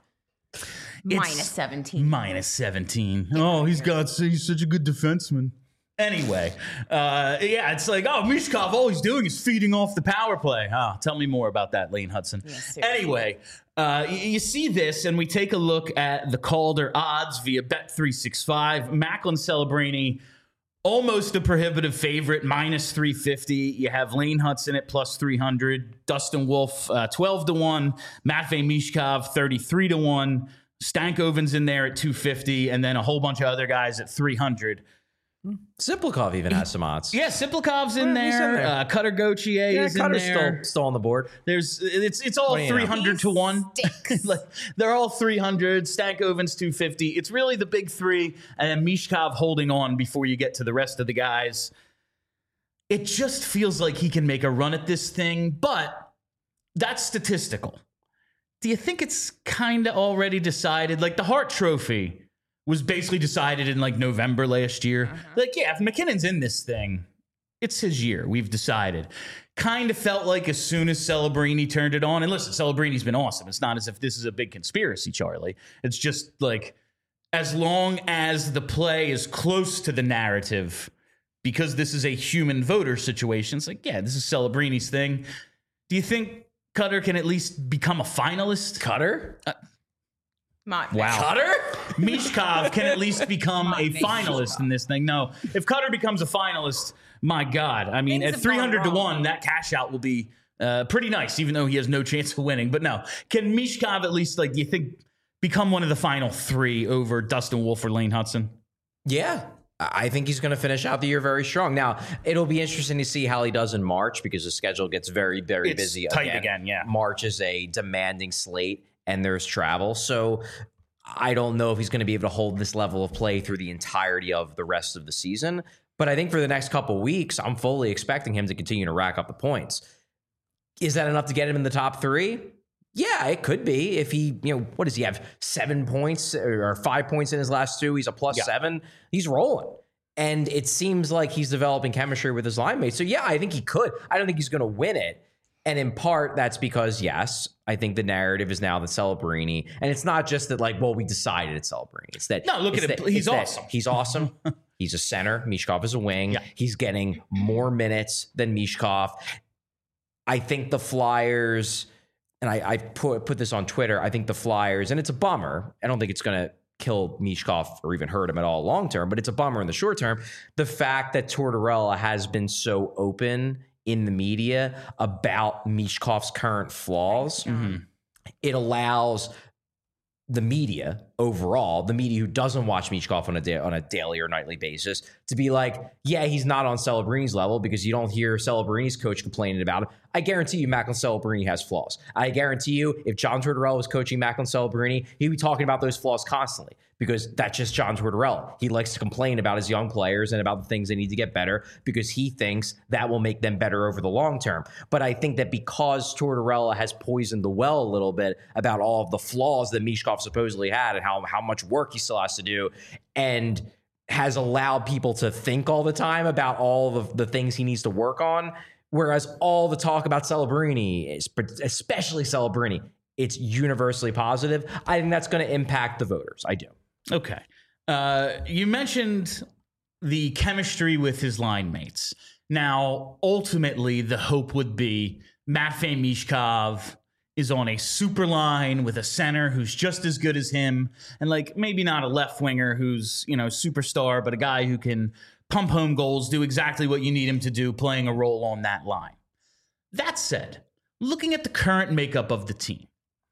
Minus seventeen. Minus seventeen. Oh, he's got, he's such a good defenseman. Anyway, uh, yeah, it's like, oh, Mishkov, all he's doing is feeding off the power play. Oh, tell me more about that, Lane Hudson. seriously. Anyway, uh, y- you see this, and we take a look at the Calder odds via Bet three sixty-five. Macklin Celebrini, almost a prohibitive favorite, minus three fifty. You have Lane Hudson at plus three hundred. Dustin Wolf, uh, twelve to one. Matvei Mishkov, thirty-three to one. Stankoven's in there at two fifty, and then a whole bunch of other guys at three hundred. Simplikov even has some odds. Yeah, Siplikov's in Yeah, he's there. in there. Uh, Cutter Gauthier Yeah, is in Cutter's there. still, still on the board. There's it's it's all What do you know? three hundred to He one. stinks. Like, they're all three hundred. Stankoven's two fifty. It's really the big three, and then Mishkov holding on before you get to the rest of the guys. It just feels like he can make a run at this thing, but that's statistical. do you think it's kind of already decided? Like the Hart Trophy was basically decided in like November last year. Uh-huh. Like, yeah, if McKinnon's in this thing, it's his year. We've decided. Kind of felt like as soon as Celebrini turned it on, and listen, Celebrini's been awesome. It's not as if this is a big conspiracy, Charlie. It's just like as long as the play is close to the narrative, because this is a human voter situation, it's like, yeah, this is Celebrini's thing. Do you think Cutter can at least become a finalist? Cutter? Uh, My, wow. Cutter? Mishkov can at least become My a finalist in this thing. No, if Cutter becomes a finalist, my God. I mean, Things at three hundred to wrong. one, that cash out will be uh, pretty nice, even though he has no chance of winning. But no, can Mishkov at least, like, do you think, become one of the final three over Dustin Wolf or Lane Hudson? Yeah. I think he's going to finish out the year very strong. Now, it'll be interesting to see how he does in March because the schedule gets very, very It's busy tight again. again, yeah. March is a demanding slate and there's travel. So I don't know if he's going to be able to hold this level of play through the entirety of the rest of the season. But I think for the next couple weeks, I'm fully expecting him to continue to rack up the points. Is that enough to get him in the top three? Yeah, it could be. If he, you know, what does he have? Seven points or five points in his last two. He's a plus Yeah. seven. He's rolling. And it seems like he's developing chemistry with his line mates. So, yeah, I think he could. I don't think he's going to win it. And in part, that's because, yes, I think the narrative is now that Celebrini. And it's not just that, like, well, we decided it's Celebrini. It's that. No, look it's at it. that- He's it's that awesome. He's awesome. He's a center. Mishkov is a wing. Yeah. He's getting more minutes than Mishkov. I think the Flyers, and I, I put put this on Twitter, I think the Flyers, and it's a bummer. I don't think it's going to kill Mishkov or even hurt him at all long term, but it's a bummer in the short term. The fact that Tortorella has been so open in the media about Mishkov's current flaws, Mm-hmm. it allows the media overall, the media who doesn't watch Mishkov on a da- on a daily or nightly basis, to be like, yeah, he's not on Celebrini's level because you don't hear Celebrini's coach complaining about him. I guarantee you Macklin Celebrini has flaws. I guarantee you if John Tortorella was coaching Macklin Celebrini, he'd be talking about those flaws constantly because that's just John Tortorella. He likes to complain about his young players and about the things they need to get better because he thinks that will make them better over the long term. But I think that because Tortorella has poisoned the well a little bit about all of the flaws that Mishkov supposedly had and how, how much work he still has to do, and has allowed people to think all the time about all of the things he needs to work on, whereas all the talk about Celebrini, especially Celebrini, it's universally positive. I think that's going to impact the voters. I do. Okay. Uh, you mentioned the chemistry with his line mates. Now, ultimately, the hope would be Matvei Mishkov is on a super line with a center who's just as good as him, and like maybe not a left winger who's, you know, superstar, but a guy who can pump home goals, do exactly what you need him to do, playing a role on that line. That said, looking at the current makeup of the team,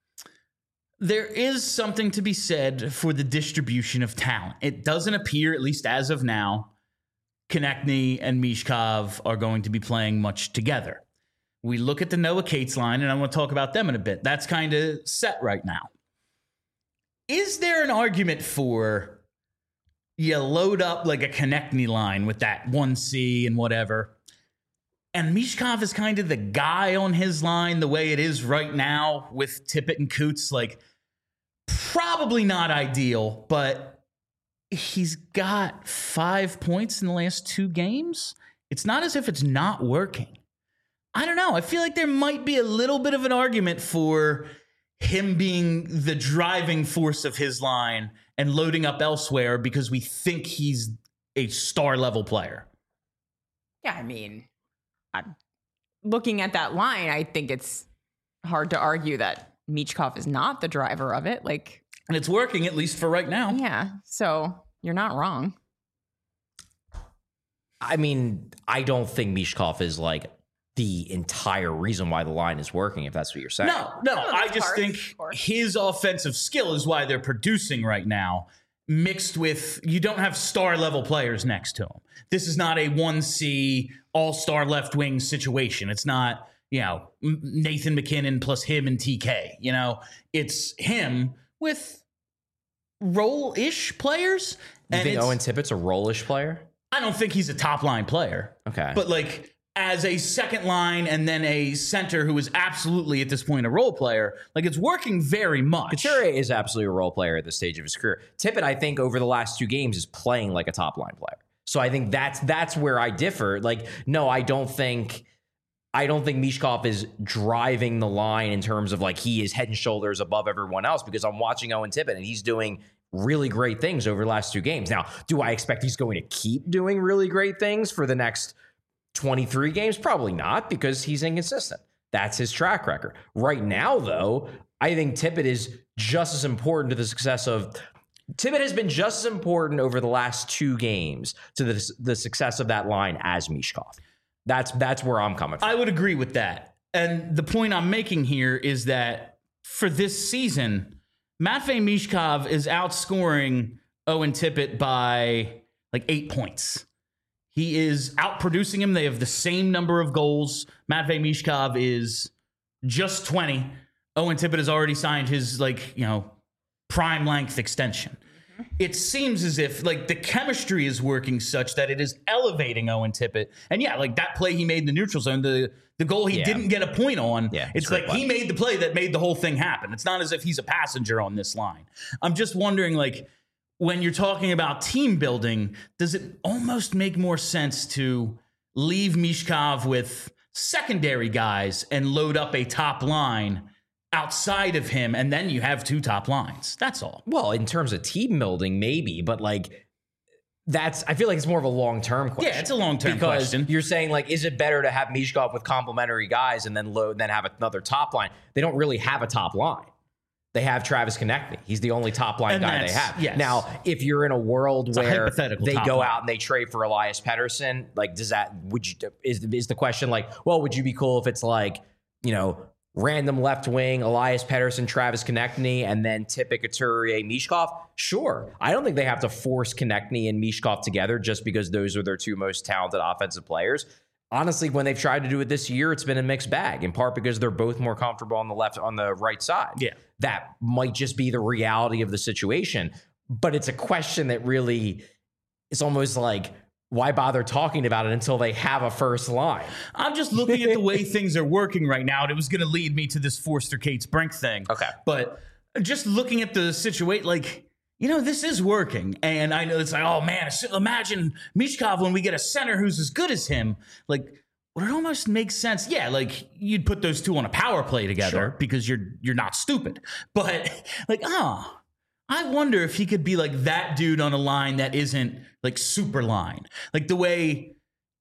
there is something to be said for the distribution of talent. It doesn't appear, at least as of now, Konechny and Mishkov are going to be playing much together. We look at the Noah Cates line, and I want to talk about them in a bit. That's kind of set right now. Is there an argument for you load up like a Konechny line with that one C and whatever, and Mishkov is kind of the guy on his line the way it is right now with Tippett and Coots? Like, probably not ideal, but he's got five points in the last two games. It's not as if it's not working. I don't know. I feel like there might be a little bit of an argument for him being the driving force of his line and loading up elsewhere because we think he's a star level player. Yeah, I mean, I'm looking at that line, I think it's hard to argue that Michkov is not the driver of it. Like, and it's working, at least for right now. Yeah, so you're not wrong. I mean, I don't think Mishkov is like the entire reason why the line is working, if that's what you're saying. No, no, No, I that's just hard, think of course. his offensive skill is why they're producing right now, mixed with you don't have star level players next to him. This is not a one C all-star left wing situation. It's not, you know, Nathan McKinnon plus him and T K. You know, it's him with role-ish players. You And think it's- Owen Tippett's a rollish player? I don't think he's a top line player. Okay. But like as a second line and then a center who is absolutely at this point a role player. Like, it's working very much. Couturier is absolutely a role player at this stage of his career. Tippett, I think, over the last two games is playing like a top line player. So I think that's that's where I differ. Like, no, I don't think I don't think Michkov is driving the line in terms of like he is head and shoulders above everyone else, because I'm watching Owen Tippett and he's doing really great things over the last two games. Now, do I expect he's going to keep doing really great things for the next twenty-three games? Probably not, because he's inconsistent. That's his track record. Right now, though, I think Tippett is just as important to the success of... Tippett has been just as important over the last two games to the, the success of that line as Michkov. That's, that's where I'm coming from. I would agree with that. And the point I'm making here is that for this season, Matvei Michkov is outscoring Owen Tippett by like eight points. He is outproducing him. They have the same number of goals. Matvei Michkov is just twenty. Owen Tippett has already signed his, like, you know, prime length extension. Mm-hmm. It seems as if, like, the chemistry is working such that it is elevating Owen Tippett. And yeah, like that play he made in the neutral zone, the the goal he yeah. didn't get a point on. Yeah, it's, it's like play. He made the play that made the whole thing happen. It's not as if he's a passenger on this line. I'm just wondering, like, when you're talking about team building, does it almost make more sense to leave Michkov with secondary guys and load up a top line outside of him, and then you have two top lines? That's all. Well, in terms of team building, maybe, but like that's, I feel like it's more of a long-term question. Yeah, it's a long-term because question. You're saying, like, is it better to have Michkov with complementary guys and then load, then have another top line? They don't really have a top line. They have Travis Konecny. He's the only top line and guy they have. Yes. Now, if you're in a world it's where a they go line. out and they trade for Elias Pettersson, like, does that, would you, is, is the question like, well, would you be cool if it's like, you know, random left wing, Elias Pettersson, Travis Konecny, and then Tippett, Couturier, Michkov? Sure. I don't think they have to force Konecny and Michkov together just because those are their two most talented offensive players. Honestly, when they've tried to do it this year, it's been a mixed bag, in part because they're both more comfortable on the left, on the right side. Yeah. That might just be the reality of the situation. But it's a question that really is almost like, why bother talking about it until they have a first line? I'm just looking at the way things are working right now, and it was going to lead me to this Forster Cates Brink thing. Okay. But just looking at the situation, like, you know, this is working. And I know it's like, oh, man, imagine Michkov when we get a center who's as good as him. Like, would it almost make sense? Yeah, like, you'd put those two on a power play together sure. because you're you're not stupid. But, like, oh, I wonder if he could be like that dude on a line that isn't, like, super line. Like, the way,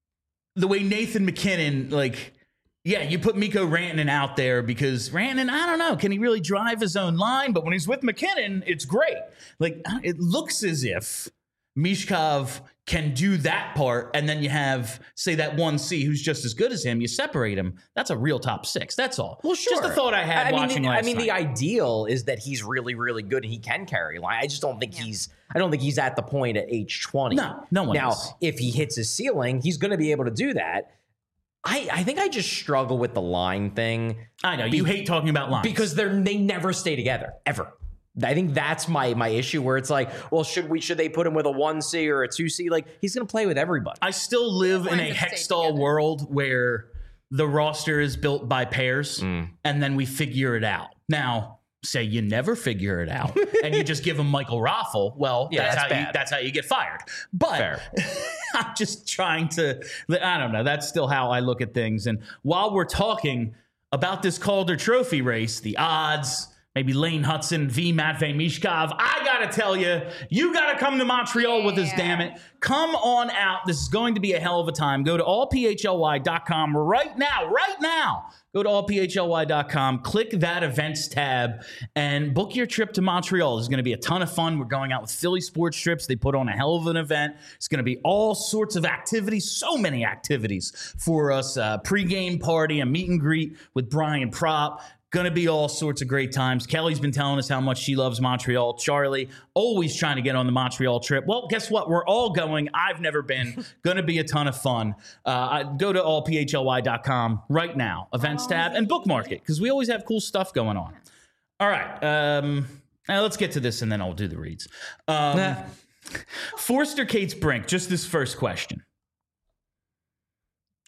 the way Nathan MacKinnon, like, yeah, you put Mikko Rantanen out there because Rantanen, I don't know, can he really drive his own line? But when he's with MacKinnon, it's great. Like, it looks as if Michkov can do that part, and then you have, say, that one C who's just as good as him. You separate him. That's a real top six. That's all. Well, sure. Just a thought I had I watching mean, the, last I mean, night. the ideal is that he's really, really good and he can carry a line. I just don't think yeah. he's. I don't think he's at the point at age twenty. No, no one Now, is. If he hits his ceiling, he's going to be able to do that. I, I think I just struggle with the line thing. I know. You be, hate talking about lines. Because they're they never stay together, ever. I think that's my my issue, where it's like, well, should we should they put him with a one C or a two C? Like, he's going to play with everybody. I still live in a Hextall world where the roster is built by pairs, mm. and then we figure it out. Now, say you never figure it out, and you just give him Michael Raffle. Well, yeah, that's, that's how you that's how you get fired. But I'm just trying to. I don't know. That's still how I look at things. And while we're talking about this Calder Trophy race, the odds. Maybe Lane Hudson v. Matvei Michkov. I got to tell you, you got to come to Montreal yeah. with us, damn it. Come on out. This is going to be a hell of a time. Go to all p h l y dot com right now, right now. Go to all p h l y dot com, click that events tab, and book your trip to Montreal. This is going to be a ton of fun. We're going out with Philly Sports Trips. They put on a hell of an event. It's going to be all sorts of activities, so many activities for us. Uh, pre-game party, a meet and greet with Brian Propp. Going to be all sorts of great times. Kelly's been telling us how much she loves Montreal. Charlie, always trying to get on the Montreal trip. Well, guess what? We're all going. I've never been. Going to be a ton of fun. Uh, go to all p h l y dot com right now, events tab, and bookmark it, because we always have cool stuff going on. All right. Um, now let's get to this, and then I'll do the reads. Um, nah. Forster Cates Brink, just this first question.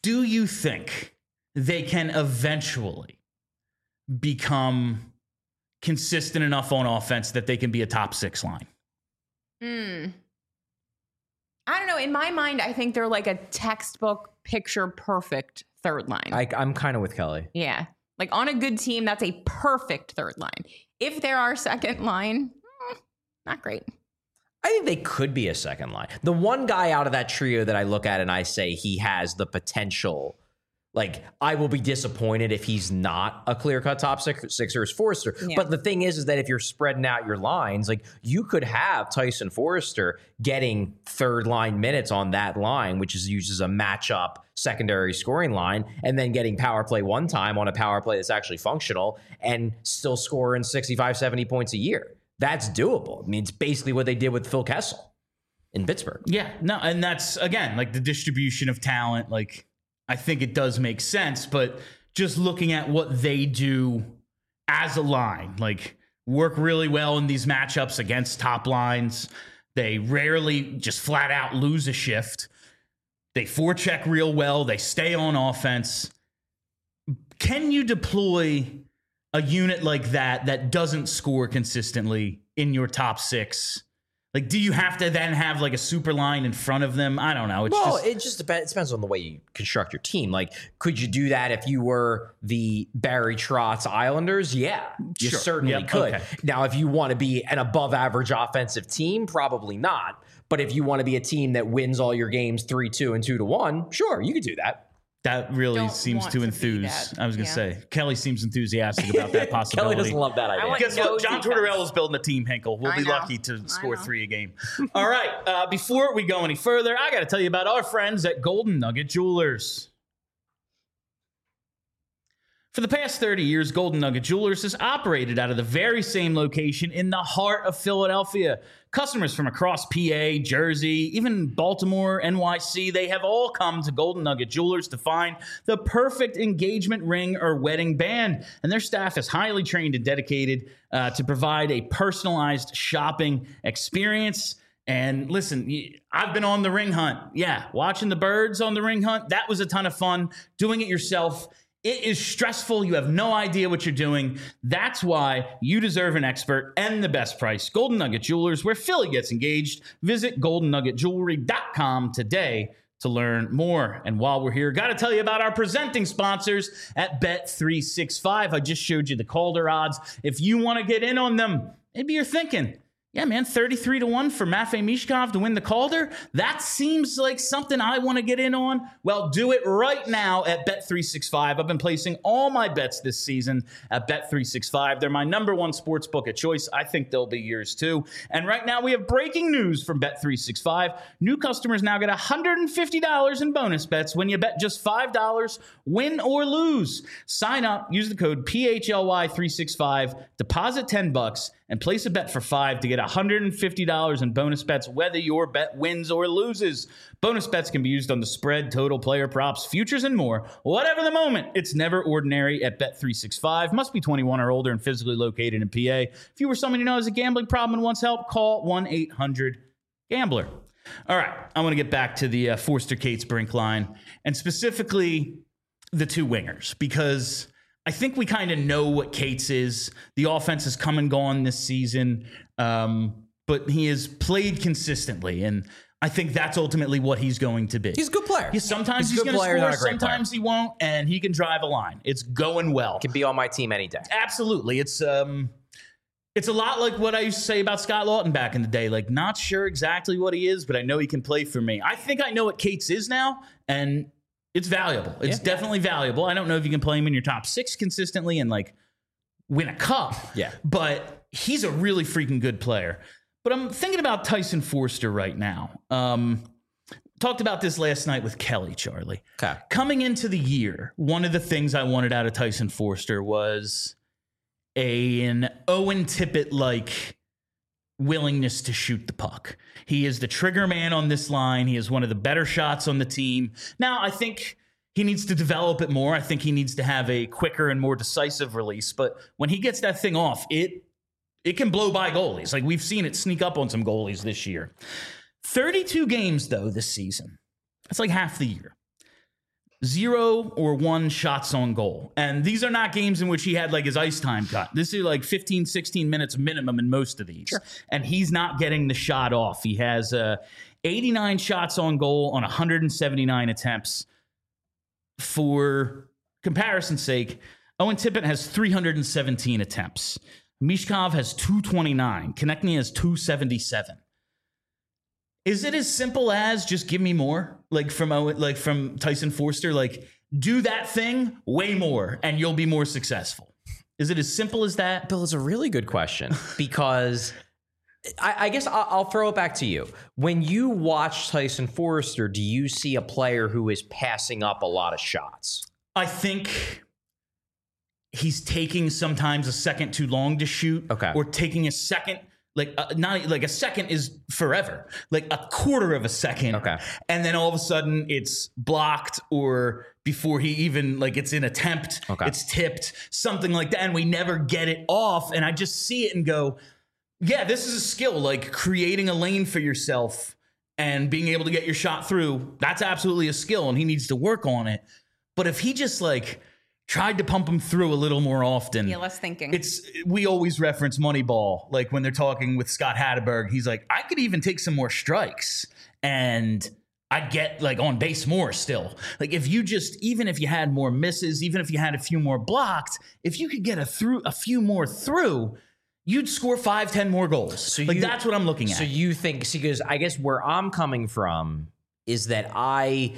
do you think they can eventually become consistent enough on offense that they can be a top six line? Hmm. I don't know. In my mind, I think they're like a textbook picture perfect third line. I, I'm kind of with Kelly. Yeah. Like on a good team, that's a perfect third line. If they're our second line, eh, not great. I think they could be a second line. The one guy out of that trio that I look at and I say he has the potential, like I will be disappointed if he's not a clear-cut top six, sixer is Forrester. Yeah. But the thing is, is that if you're spreading out your lines, like you could have Tyson Forrester getting third line minutes on that line, which is used as a matchup secondary scoring line, and then getting power play one time on a power play that's actually functional and still scoring sixty-five, seventy points a year. That's doable. I mean, it's basically what they did with Phil Kessel in Pittsburgh. Yeah, no, and that's, again, like the distribution of talent. Like, I think it does make sense, but just looking at what they do as a line, like work really well in these matchups against top lines. They rarely just flat out lose a shift. They forecheck real well. They stay on offense. Can you deploy a unit like that that doesn't score consistently in your top six? Like, do you have to then have like a super line in front of them? I don't know. It's well, just, it just depends. It depends on the way you construct your team. Like, could you do that if you were the Barry Trotz Islanders? Yeah, you Sure. certainly Yep. could. Okay. Now, if you want to be an above average offensive team, probably not. But if you want to be a team that wins all your games three two and two to one, sure, you could do that. that really Don't seems want to to be enthuse. that. I was going to Yeah. say, Kelly seems enthusiastic about that possibility. Kelly doesn't love that idea. want Guess no what? John defense. Tortorella's building a team, Hinkle. We'll I be know. lucky to I score know. three a game. All right. Uh, before we go any further, I got to tell you about our friends at Golden Nugget Jewelers. For the past thirty years, Golden Nugget Jewelers has operated out of the very same location in the heart of Philadelphia. Customers from across P A, Jersey, even Baltimore, N Y C, they have all come to Golden Nugget Jewelers to find the perfect engagement ring or wedding band. And their staff is highly trained and dedicated uh, to provide a personalized shopping experience. And listen, I've been on the ring hunt. Yeah, watching the birds on the ring hunt, that was a ton of fun. Doing it yourself, it is stressful. You have no idea what you're doing. That's why you deserve an expert and the best price. Golden Nugget Jewelers, where Philly gets engaged. Visit golden nugget jewelry dot com today to learn more. And while we're here, got to tell you about our presenting sponsors at Bet three sixty-five. I just showed you the Calder odds. If you want to get in on them, maybe you're thinking, yeah, man, thirty-three to one for Matvei Michkov to win the Calder. That seems like something I want to get in on. Well, do it right now at Bet three sixty-five. I've been placing all my bets this season at Bet three sixty-five. They're my number one sports book of choice. I think they'll be yours too. And right now we have breaking news from Bet three sixty-five. New customers now get one hundred fifty dollars in bonus bets when you bet just five dollars, win or lose. Sign up, use the code P H L Y three sixty-five, deposit ten bucks, and place a bet for five to get one hundred fifty dollars in bonus bets, whether your bet wins or loses. Bonus bets can be used on the spread, total, player props, futures, and more. Whatever the moment, it's never ordinary at Bet three sixty-five. Must be twenty-one or older and physically located in P A. If you or someone you know has a gambling problem and wants help, call one eight hundred gambler. All right, I want to get back to the uh, Forster Cates Brink line, and specifically the two wingers, because I think we kind of know what Cates is. The offense has come and gone this season, um, but he has played consistently, and I think that's ultimately what he's going to be. He's a good player. Yeah, sometimes He's he's, a good going to player, score, not a great sometimes he won't, and he can drive a line. It's going well. Can be on my team any day. Absolutely. It's um it's a lot like what I used to say about Scott Lawton back in the day. Like, not sure exactly what he is, but I know he can play for me. I think I know what Cates is now, and it's valuable. It's Yeah. definitely valuable. I don't know if you can play him in your top six consistently and like win a cup. Yeah. But he's a really freaking good player. But I'm thinking about Tyson Forster right now. Um, talked about this last night with Kelly, Charlie. Okay. Coming into the year, one of the things I wanted out of Tyson Forster was a, an Owen Tippett-like willingness to shoot the puck. He is the trigger man on this line. He is one of the better shots on the team. Now, I think he needs to develop it more. I think he needs to have a quicker and more decisive release. But when he gets that thing off, it it can blow by goalies. Like, we've seen it sneak up on some goalies this year. thirty-two games, though, this season. That's like half the year. zero or one shots on goal. And these are not games in which he had like his ice time cut. This is like fifteen, sixteen minutes minimum in most of these. Sure. And he's not getting the shot off. He has uh, eighty-nine shots on goal on one hundred seventy-nine attempts. For comparison's sake, Owen Tippett has three hundred seventeen attempts. Michkov has two twenty-nine. Konechny has two seventy-seven. Is it as simple as just give me more? Like from like from Tyson Foerster, like do that thing way more and you'll be more successful. Is it as simple as that? Bill, it's a really good question because I, I guess I'll, I'll throw it back to you. When you watch Tyson Foerster, do you see a player who is passing up a lot of shots? I think he's taking sometimes a second too long to shoot. Okay. Or taking a second. Like uh, not like a second is forever, like a quarter of a second. Okay. And then all of a sudden it's blocked or before he even like it's in attempt, okay. It's tipped, something like that. And we never get it off. And I just see it and go, yeah, this is a skill, like creating a lane for yourself and being able to get your shot through. That's absolutely a skill and he needs to work on it. But if he just like tried to pump him through a little more often. Yeah, less thinking. It's we always reference Moneyball, like when they're talking with Scott Hatteberg. He's like, I could even take some more strikes and I'd get like on base more still. Like if you just, even if you had more misses, even if you had a few more blocked, if you could get a through a few more through, you'd score five, ten more goals. So like you, that's what I'm looking at. So you think, see, because I guess where I'm coming from is that I.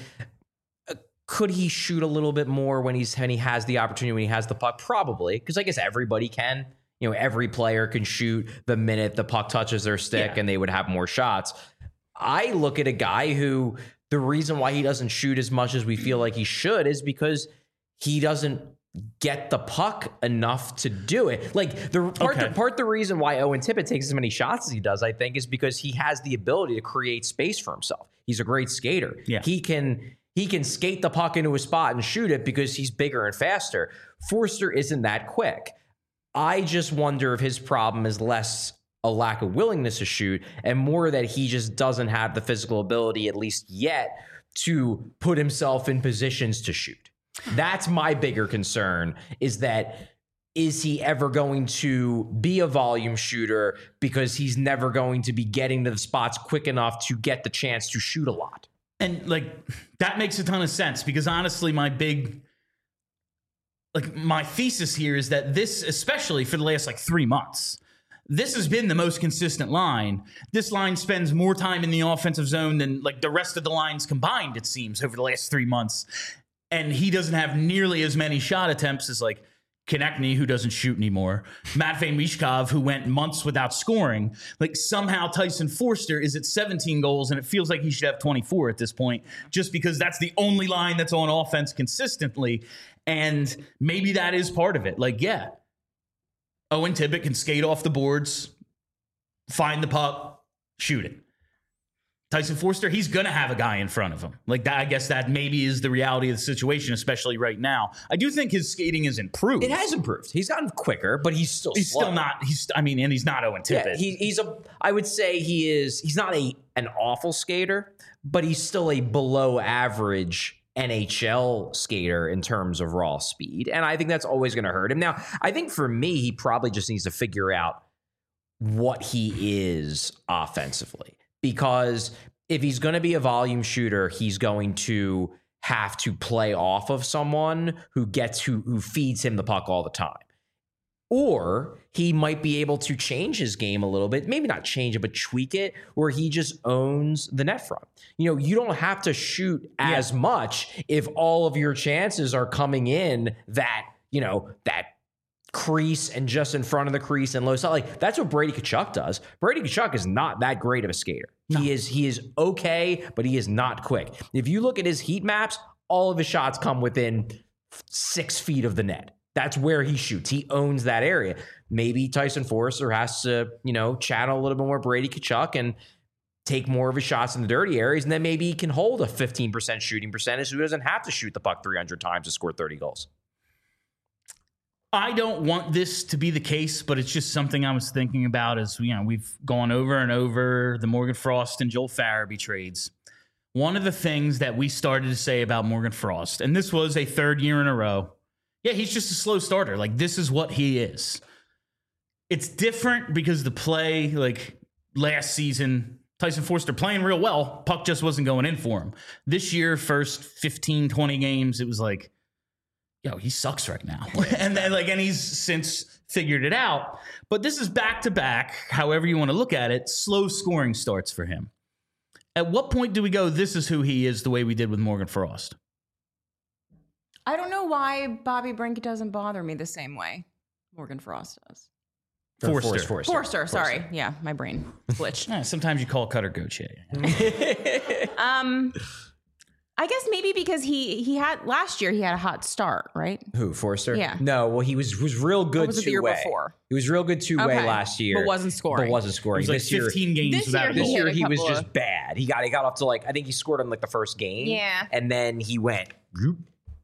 Could he shoot a little bit more when he's when he has the opportunity, when he has the puck? Probably, because I guess everybody can. You know, every player can shoot the minute the puck touches their stick, yeah. And they would have more shots. I look at a guy who the reason why he doesn't shoot as much as we feel like he should is because he doesn't get the puck enough to do it. Like the part, okay. the part, the reason why Owen Tippett takes as many shots as he does, I think, is because he has the ability to create space for himself. He's a great skater. Yeah. He can. He can skate the puck into a spot and shoot it because he's bigger and faster. Foerster isn't that quick. I just wonder if his problem is less a lack of willingness to shoot and more that he just doesn't have the physical ability, at least yet, to put himself in positions to shoot. That's my bigger concern, is that is he ever going to be a volume shooter because he's never going to be getting to the spots quick enough to get the chance to shoot a lot? And like that makes a ton of sense because honestly, my big like my thesis here is that this, especially for the last like three months, this has been the most consistent line. This line spends more time in the offensive zone than like the rest of the lines combined, it seems, over the last three months. And he doesn't have nearly as many shot attempts as like Konechny, who doesn't shoot anymore, Matvei Michkov, who went months without scoring. Like somehow Tyson Foerster is at seventeen goals, and it feels like he should have twenty-four at this point, just because that's the only line that's on offense consistently. And maybe that is part of it. Like, yeah, Owen Tippett can skate off the boards, find the puck, shoot it. Tyson Foerster, he's going to have a guy in front of him. Like that, I guess that maybe is the reality of the situation, especially right now. I do think his skating has improved. It has improved. He's gotten quicker, but he's still He's slow. still not, he's, I mean, and he's not Owen Tippett. Yeah, he, he's a, I would say he is, he's not a an awful skater, but he's still a below average N H L skater in terms of raw speed. And I think that's always going to hurt him. Now, I think for me, he probably just needs to figure out what he is offensively. Because if he's going to be a volume shooter, he's going to have to play off of someone who gets who who feeds him the puck all the time. Or he might be able to change his game a little bit, maybe not change it, but tweak it, where he just owns the net front. You know, you don't have to shoot as yeah. much if all of your chances are coming in that, you know, that crease and just in front of the crease and low side. Like that's what Brady Tkachuk does. Brady Tkachuk is not that great of a skater. No. He is he is okay, but he is not quick. If you look at his heat maps, all of his shots come within six feet of the net. That's where he shoots. He owns that area. Maybe Tyson Foerster has to, you know, channel a little bit more Brady Tkachuk and take more of his shots in the dirty areas, and then maybe he can hold a fifteen percent shooting percentage so he doesn't have to shoot the puck three hundred times to score thirty goals. I don't want this to be the case, but it's just something I was thinking about as, you know, we've gone over and over the Morgan Frost and Joel Farabee trades. one of the things that we started to say about Morgan Frost, and this was a third year in a row, yeah, he's just a slow starter. Like, this is what he is. It's different because the play, like last season, Tyson Forster playing real well. Puck just wasn't going in for him. This year, first fifteen, twenty games, it was like, yo, he sucks right now. and then like, and he's since figured it out. But this is back to back, however you want to look at it, slow scoring starts for him. At what point do we go, this is who he is, the way we did with Morgan Frost? I don't know why Bobby Brink doesn't bother me the same way Morgan Frost does. Forster. Forster. Forster, Forster, sorry. Yeah, my brain glitched. Yeah, sometimes you call Cutter Goche. um, I guess maybe because he he had last year he had a hot start, right? Who, Forster? Yeah. No, well, he was was real good Or was it the year two-way. before? He was real good two-way Okay. last year. But wasn't scoring. But wasn't It scoring. was like this year, fifteen games this without year a he this goal. year hit a he was couple just of- bad. He got he got up to like, I think he scored in like the first game. Yeah. And then he went, whoop.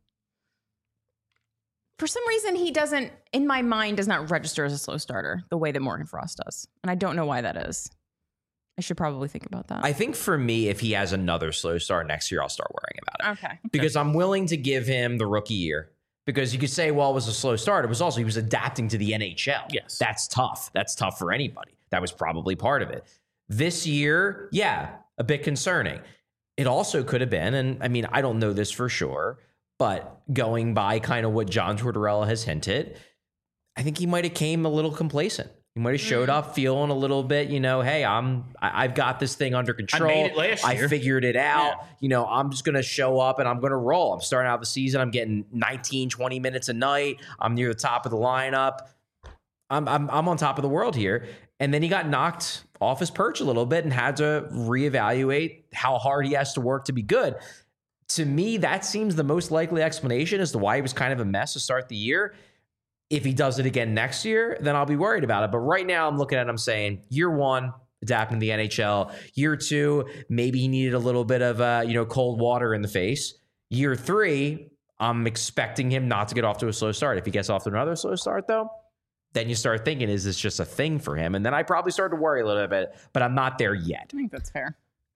For some reason, he doesn't, in my mind, does not register as a slow starter the way that Morgan Frost does. And I don't know why that is. I should probably think about that. I think for me, if he has another slow start next year, I'll start worrying about it. okay. Because I'm willing to give him the rookie year. Because you could say, well, it was a slow start. It was also, he was adapting to the N H L. Yes. That's tough. That's tough for anybody. That was probably part of it. This year, yeah, a bit concerning. It also could have been, and I mean, I don't know this for sure, but going by kind of what John Tortorella has hinted, I think he might have came a little complacent. He might have showed up feeling a little bit, you know, hey, I'm, I, I've got this thing under control. made it last I year. figured it out. Yeah. You know, I'm just going to show up and I'm going to roll. I'm starting out the season. I'm getting nineteen, twenty minutes a night. I'm near the top of the lineup. I'm, I'm, I'm on top of the world here. And then he got knocked off his perch a little bit and had to reevaluate how hard he has to work to be good. To me, that seems the most likely explanation as to why he was kind of a mess to start the year. If he does it again next year, then I'll be worried about it. But right now I'm looking at it, I'm saying year one, adapting to the N H L. Year two, maybe he needed a little bit of uh, you know, cold water in the face. Year three, I'm expecting him not to get off to a slow start. If he gets off to another slow start, though, then you start thinking, is this just a thing for him? And then I probably start to worry a little bit, but I'm not there yet. I think that's fair.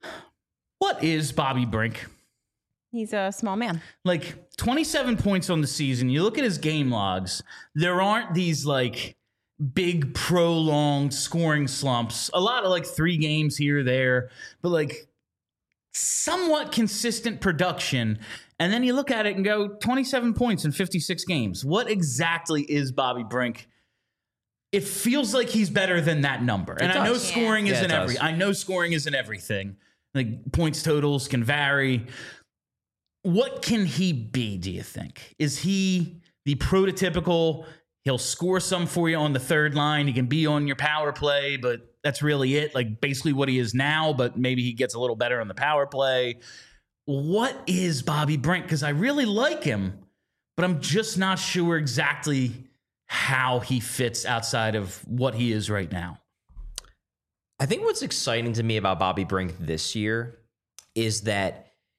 What is Bobby Brink? He's a small man. Like twenty-seven points on the season. You look at his game logs, there aren't these like big prolonged scoring slumps. A lot of like three games here or there, but like somewhat consistent production. And then you look at it and go twenty-seven points in fifty-six games. What exactly is Bobby Brink? It feels like he's better than that number. And I know does. scoring Yeah, isn't it does. every I know scoring isn't everything. Like points totals can vary. What can he be, do you think? Is he the prototypical, he'll score some for you on the third line, he can be on your power play, but that's really it? Like basically what he is now, but maybe he gets a little better on the power play. What is Bobby Brink? Because I really like him, but I'm just not sure exactly how he fits outside of what he is right now. I think what's exciting to me about Bobby Brink this year is that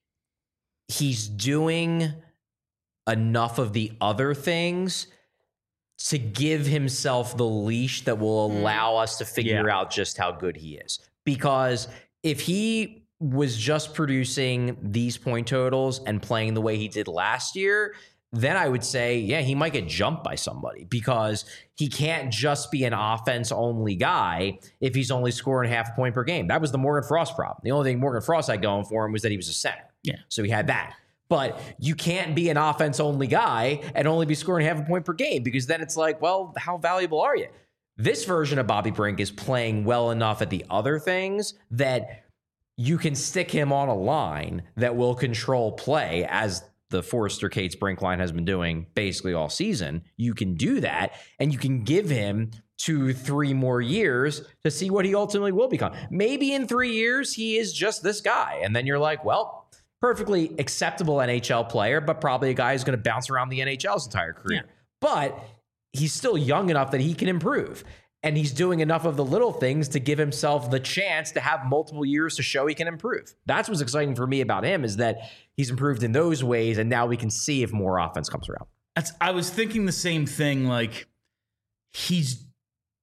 he's doing enough of the other things to give himself the leash that will allow us to figure Yeah. out just how good he is. Because if he was just producing these point totals and playing the way he did last year, then I would say, yeah, he might get jumped by somebody because he can't just be an offense-only guy if he's only scoring half a point per game. That was the Morgan Frost problem. The only thing Morgan Frost had going for him was that he was a center. Yeah. So he had that. But you can't be an offense-only guy and only be scoring half a point per game because then it's like, well, how valuable are you? This version of Bobby Brink is playing well enough at the other things that you can stick him on a line that will control play as the Forrester Cates Brink line has been doing basically all season. You can do that, and you can give him two, three more years to see what he ultimately will become. Maybe in three years, he is just this guy. And then you're like, well, perfectly acceptable N H L player, but probably a guy who's going to bounce around the N H L's entire career. Yeah. But he's still young enough that he can improve. And he's doing enough of the little things to give himself the chance to have multiple years to show he can improve. That's what's exciting for me about him is that he's improved in those ways, and now we can see if more offense comes around. That's, I was thinking the same thing. Like he's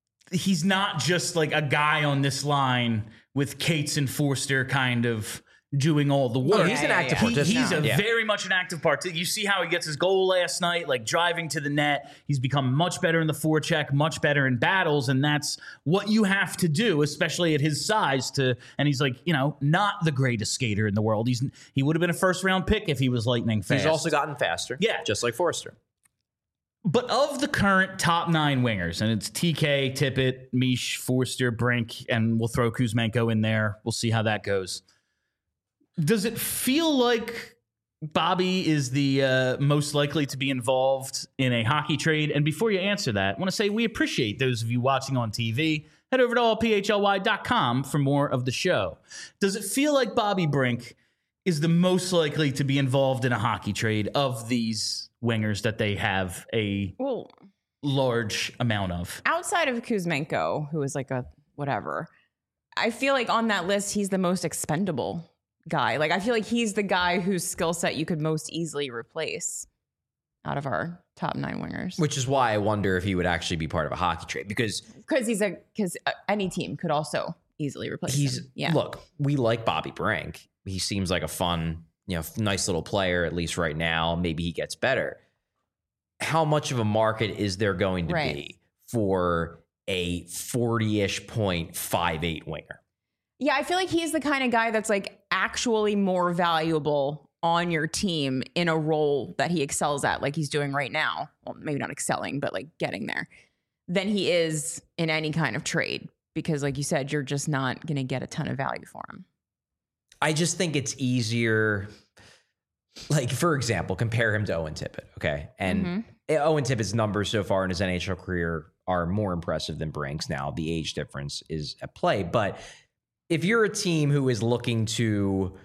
he's not just like a guy on this line with Cates and Forster kind of doing all the work. Oh, he's an yeah, active yeah. He- participant. he's a Yeah. very much an active participant. You see how he gets his goal last night, like driving to the net. He's become much better in the forecheck, much better in battles, and that's what you have to do, especially at his size. To and he's like, you know, not the greatest skater in the world. He's he would have been a first round pick if he was lightning fast. He's also gotten faster. Yeah. Just like Forster. But of the current top nine wingers, and it's T K, Tippett, Mish, Forster, Brink, and we'll throw Kuzmenko in there. We'll see how that goes. Does it feel like Bobby is the uh, most likely to be involved in a hockey trade? And before you answer that, I want to say we appreciate those of you watching on T V. Head over to all p h l y dot com for more of the show. Does it feel like Bobby Brink is the most likely to be involved in a hockey trade of these wingers that they have a Well, large amount of? outside of Kuzmenko, who is like a whatever, I feel like on that list, he's the most expendable guy. Like, I feel like he's the guy whose skill set you could most easily replace out of our top nine wingers. Which is why I wonder if he would actually be part of a hockey trade, because Because he's a, because any team could also easily replace he's, him. Yeah. look, we like Bobby Brink. He seems like a fun, you know, nice little player, at least right now. Maybe he gets better. How much of a market is there going to Right. be for a forty-ish point five eight winger? Yeah, I feel like he's the kind of guy that's like actually more valuable on your team in a role that he excels at, like he's doing right now. Well, maybe not excelling, but like getting there, than he is in any kind of trade. Because, like you said, you're just not going to get a ton of value for him. I just think it's easier. Like, for example, compare him to Owen Tippett, okay? And Mm-hmm. Owen Tippett's numbers so far in his N H L career are more impressive than Brink's. Now, the age difference is at play. But if you're a team who is looking to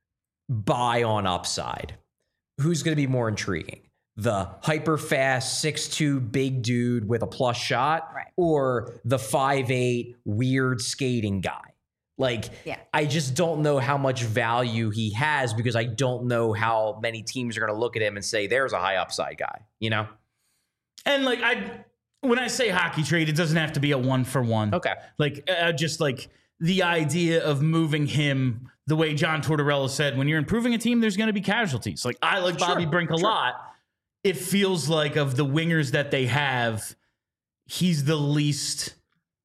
buy on upside, who's going to be more intriguing? The hyper fast six two big dude with a plus shot, Right. or the five eight weird skating guy? Like, Yeah. I just don't know how much value he has, because I don't know how many teams are going to look at him and say, there's a high upside guy, you know? And like I, when I say hockey trade, it doesn't have to be a one for one. Okay. Like uh, just like the idea of moving him the way John Tortorella said, when you're improving a team, there's going to be casualties. Like I like Bobby Sure, Brink a sure. lot. It feels like of the wingers that they have, he's the least.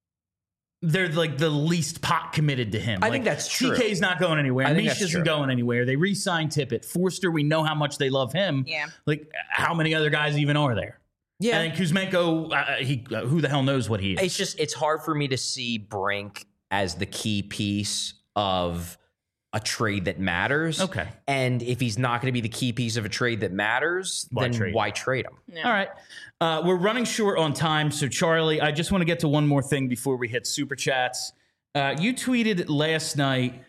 They're like the least pot committed to him. I Like, think that's true. T K's not going anywhere. I think Mish that's isn't true. going anywhere. They re-signed Tippett. Forster, we know how much they love him. Yeah. Like how many other guys even are there? Yeah. And then Kuzmenko, uh, he uh, who the hell knows what he is? It's just, it's hard for me to see Brink as the key piece of a trade that matters. Okay. And if he's not going to be the key piece of a trade that matters, Why then trade? why trade him? Yeah. All right. Uh, we're running short on time. So, Charlie, I just want to get to one more thing before we hit super chats. Uh, you tweeted last night,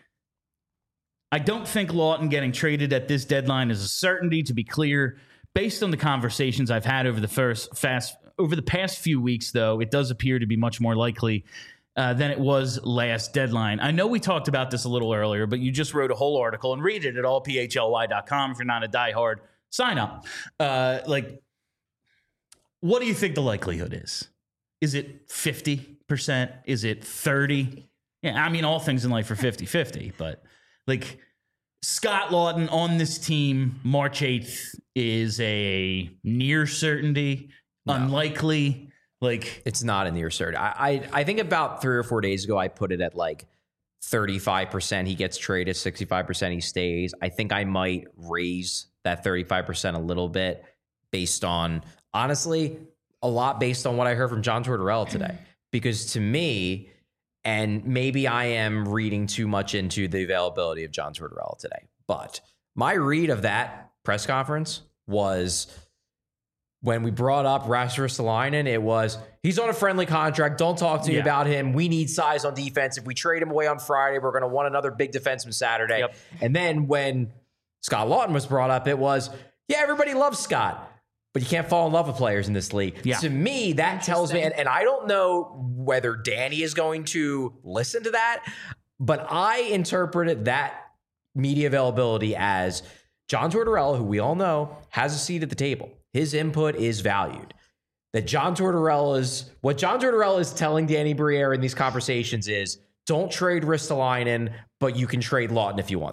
I don't think Lawton getting traded at this deadline is a certainty. To be clear, based on the conversations I've had over the first fast over the past few weeks, though, it does appear to be much more likely uh, than it was last deadline. I know we talked about this a little earlier, but you just wrote a whole article and read it at all p h l y dot com if you're not a diehard. Sign up. Uh, like, what do you think the likelihood is? Is it fifty percent? Is it thirty? Yeah, I mean, all things in life are fifty-fifty, but like Scott Lawton on this team, March eighth is a near certainty, No. unlikely. Like, It's not a near cert. I, I I think about three or four days ago, I put it at like thirty-five percent he gets traded, sixty-five percent he stays. I think I might raise that thirty-five percent a little bit based on, honestly, a lot based on what I heard from John Tortorella today. Because to me, and maybe I am reading too much into the availability of John Tortorella today, but my read of that press conference was, when we brought up Rasmus Ristolainen, it was, he's on a friendly contract. Don't talk to me Yeah. about him. We need size on defense. If we trade him away on Friday, we're going to want another big defenseman Saturday. Yep. And then when Scott Lawton was brought up, it was, yeah, everybody loves Scott, but you can't fall in love with players in this league. Yeah. To me, that tells me, and, and I don't know whether Danny is going to listen to that, but I interpreted that media availability as John Tortorella, who we all know has a seat at the table. His input is valued. That John Tortorella is, what John Tortorella is telling Danny Briere in these conversations is, don't trade Ristolainen, but you can trade Lawton if you want to.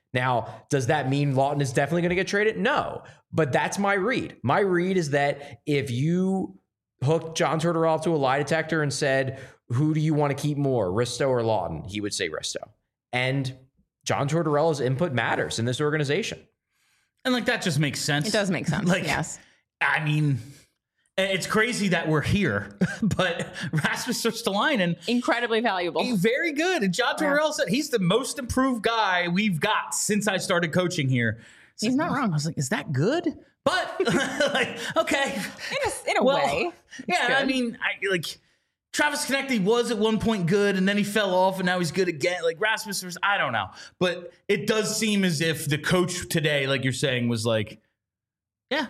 Now, does that mean Lawton is definitely going to get traded? No, but that's my read. My read is that if you hooked John Tortorella up to a lie detector and said, who do you want to keep more, Risto or Lawton? He would say Risto. And John Tortorella's input matters in this organization. And like, that just makes sense. It does make sense. Like, yes. I mean, it's crazy that we're here, but Rasmus Ristolainen, Incredibly valuable. very good. And John Tortorella yeah. said he's the most improved guy we've got since I started coaching here. It's he's like, not wrong. I was like, is that good? But like, okay. In a, in a well, way. Yeah, good. I mean, I like Travis Konecny was at one point good and then he fell off and now he's good again. Like Rasmus, was, I don't know. But it does seem as if the coach today, like you're saying, was like, yeah,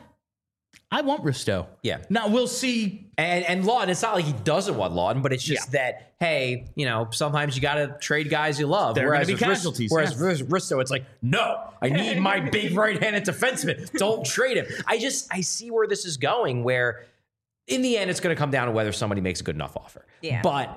I want Risto. Yeah. Now we'll see. And and Lawton, it's not like he doesn't want Lawton, but it's just Yeah. that, hey, you know, sometimes you got to trade guys you love. There are whereas gonna be with Ris- casualties, Whereas yeah. with Risto, it's like, no, I need my big right-handed defenseman. Don't trade him. I just, I see where this is going, where in the end, it's going to come down to whether somebody makes a good enough offer. Yeah. But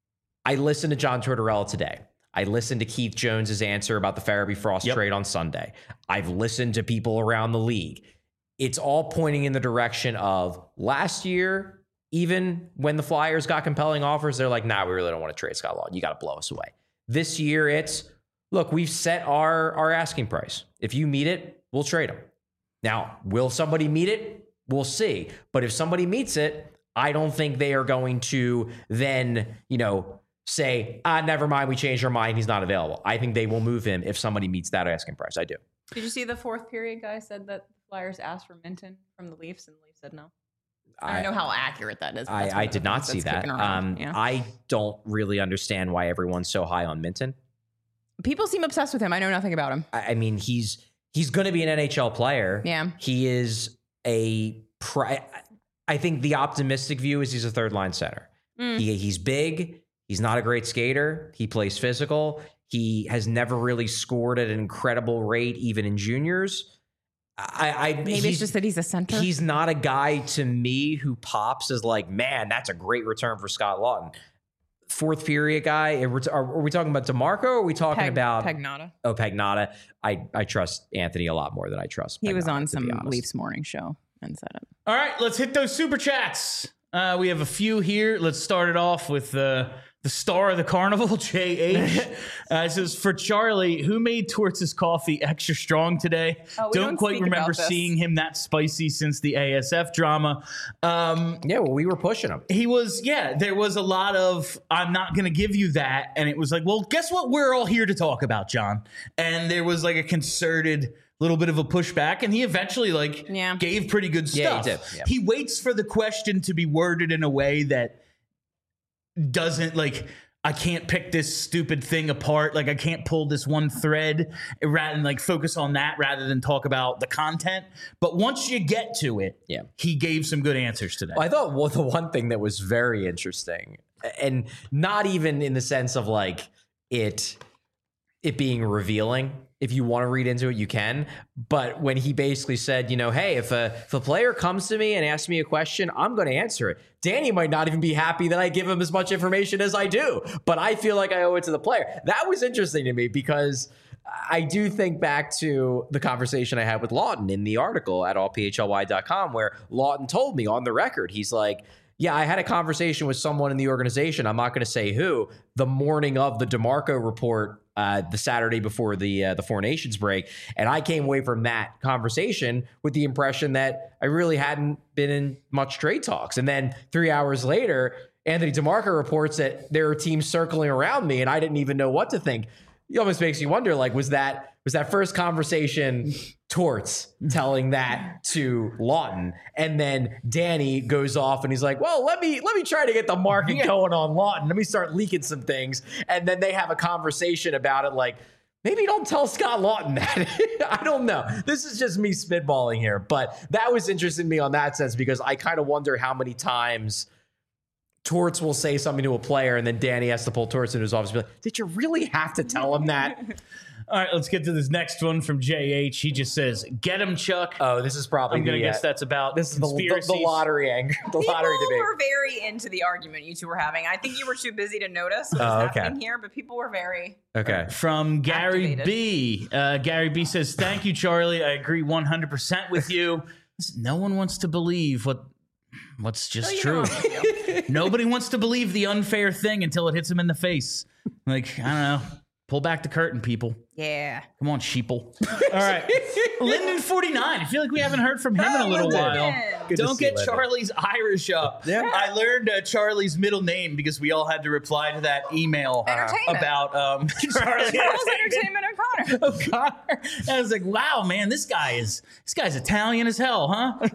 I listened to John Tortorella today. I listened to Keith Jones's answer about the Farabee Frost Yep. trade on Sunday. I've listened to people around the league. It's all pointing in the direction of last year, even when the Flyers got compelling offers, they're like, nah, we really don't want to trade Scott Lawton. You got to blow us away. This year, it's, look, we've set our, our asking price. If you meet it, we'll trade him. Now, will somebody meet it? We'll see. But if somebody meets it, I don't think they are going to then, you know, say, ah, never mind, we changed our mind, he's not available. I think they will move him if somebody meets that asking price. I do. Did you see the fourth period guy said that the Flyers asked for Minton from the Leafs and the Leafs said no? I don't know how accurate that is. but that's I, one I of the did not things see that's that. kicking around. Um, Yeah. I don't really understand why everyone's so high on Minton. People seem obsessed with him. I know nothing about him. I, I mean, he's he's going to be an N H L player. Yeah. He is a. Pri- I think the optimistic view is he's a third line center. Mm. He he's big. He's not a great skater. He plays physical. He has never really scored at an incredible rate, even in juniors. I, I Maybe he's- it's just that he's a center. He's not a guy to me who pops as like, man, that's a great return for Scott Lawton. Fourth period guy. Are we, are we talking about DeMarco or are we talking Peg- about Pagnotta. Oh, Pagnotta? I, I trust Anthony a lot more than I trust He was Pagnotta, on to some be honest. Leafs morning show and said it. All right, let's hit those super chats. Uh, we have a few here. Let's start it off with uh, the star of the carnival, J H. Uh, it says, for Charlie, who made Torts' coffee extra strong today? Oh, we don't, don't quite speak remember about this. seeing him that spicy since the A S F drama. Um, Yeah, well, we were pushing him. he was, yeah, there was a lot of, I'm not going to give you that. And it was like, well, guess what we're all here to talk about, John? And there was like a concerted little bit of a pushback, and he eventually like Yeah. gave pretty good Yeah, he stuff. did, yeah. He waits for the question to be worded in a way that doesn't like, I can't pick this stupid thing apart. Like I can't pull this one thread rather than like focus on that rather than talk about the content. But once you get to it, Yeah. he gave some good answers today. Well, I thought well, the one thing that was very interesting, and not even in the sense of like it it being revealing. If you want to read into it, you can. But when he basically said, you know, hey, if a if a player comes to me and asks me a question, I'm going to answer it. Danny might not even be happy that I give him as much information as I do, but I feel like I owe it to the player. That was interesting to me because I do think back to the conversation I had with Lawton in the article at all p h l y dot com, where Lawton told me on the record, he's like, yeah, I had a conversation with someone in the organization. I'm not going to say who. The morning of the DeMarco report, uh, the Saturday before the uh, the Four Nations break, and I came away from that conversation with the impression that I really hadn't been in much trade talks. And then three hours later, Anthony DeMarco reports that there are teams circling around me, and I didn't even know what to think. It almost makes you wonder, like, was that was that first conversation Torts telling that to Lawton, and then Danny goes off and he's like, well, let me let me try to get the market Yeah. going on Lawton. Let me start leaking some things. And then they have a conversation about it like, maybe don't tell Scott Lawton that. I don't know. This is just me spitballing here. But that was interesting to me on that sense because I kind of wonder how many times Torts will say something to a player and then Danny has to pull Torts into his office and be like, did you really have to tell him that? All right, let's get to this next one from J H. He just says, "Get him, Chuck." Oh, this is probably I'm gonna the, guess uh, that's about this is the, the, conspiracies. the lottery angle, the People lottery debate. were very into the argument you two were having. I think you were too busy to notice what was Oh, okay. happening here, but people were very. Okay. From Gary Activated. B. Uh, Gary B says, "Thank you, Charlie. I agree one hundred percent with you. Listen, no one wants to believe what what's just you true. know what I'm Nobody wants to believe the unfair thing until it hits them in the face. Like, I don't know. Pull back the curtain, people. Yeah. Come on, sheeple. All right. Linden forty-nine. I feel like we haven't heard from him in a little Linden. while. Good to Don't see get Linden. Charlie's Irish up. Yeah. I learned uh, Charlie's middle name because we all had to reply to that email Entertainment. about um, Charlie Charles Entertainment O'Connor. O'Connor. And I was like, wow, man, this guy is this guy's Italian as hell, huh?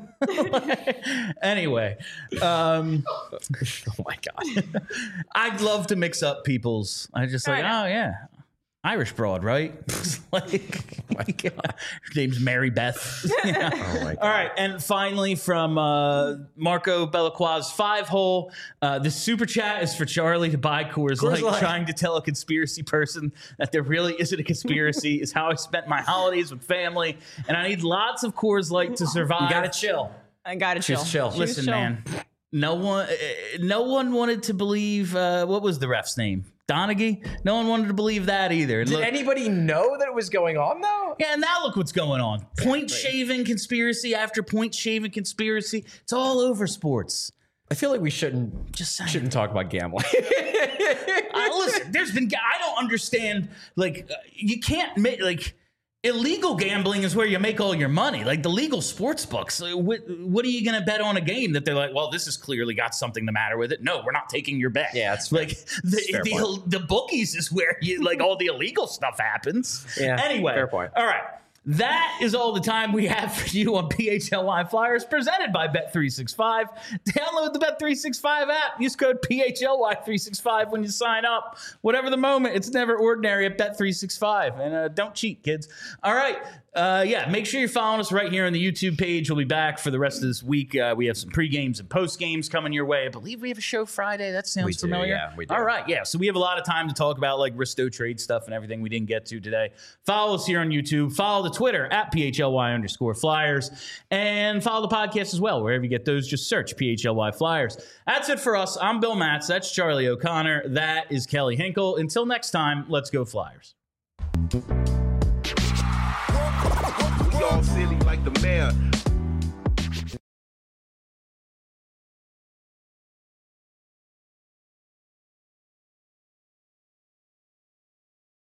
Anyway, um, Oh my god. I'd love to mix up people's. I just like, I oh yeah, Irish broad, right? like, Oh my god. her name's Mary Beth. Yeah. Oh my god. All right, and finally from uh, Marco Belacqua's five hole, uh, the super chat is for Charlie to buy Coors, Coors Light. Light. Trying to tell a conspiracy person that there really isn't a conspiracy is how I spent my holidays with family, and I need lots of Coors Light to survive. You gotta chill. I gotta chill. Just chill. Listen, chill. man. No one, uh, no one wanted to believe. Uh, what was the ref's name? Donaghy. No one wanted to believe that either. Did Look- anybody know that it was going on though? yeah, and now look what's going on. Point shaving conspiracy after point shaving conspiracy. It's all over sports. I feel like we shouldn't Just saying. shouldn't talk about gambling. Uh, listen, there's been. I don't understand. Like, uh, you can't make like. Illegal gambling is where you make all your money. Like the legal sports books. uh, What, what are you going to bet on a game that they're like, well, this has clearly got something the matter with it? No, we're not taking your bet. Yeah, it's fair. like the, fair the, point. the bookies is where you like all the illegal stuff happens. Yeah, Anyway, fair point. All right. That is all the time we have for you on P H L Y Flyers, presented by Bet three sixty-five. Download the Bet three sixty-five app. Use code P H L Y three sixty-five when you sign up. Whatever the moment, it's never ordinary at Bet three sixty-five. And uh, don't cheat, kids. All right. Uh, yeah, make sure you're following us right here on the YouTube page. We'll be back for the rest of this week. Uh, we have some pre-games and post-games coming your way. I believe we have a show Friday. That sounds We do, familiar. yeah, we do. All right, yeah. So we have a lot of time to talk about like Risto trade stuff and everything we didn't get to today. Follow us here on YouTube. Follow the Twitter at P H L Y underscore Flyers. And follow the podcast as well. Wherever you get those, just search P H L Y Flyers. That's it for us. I'm Bill Matz. That's Charlie O'Connor. That is Kelly Hinkle. Until next time, let's go Flyers. We all silly like the mayor.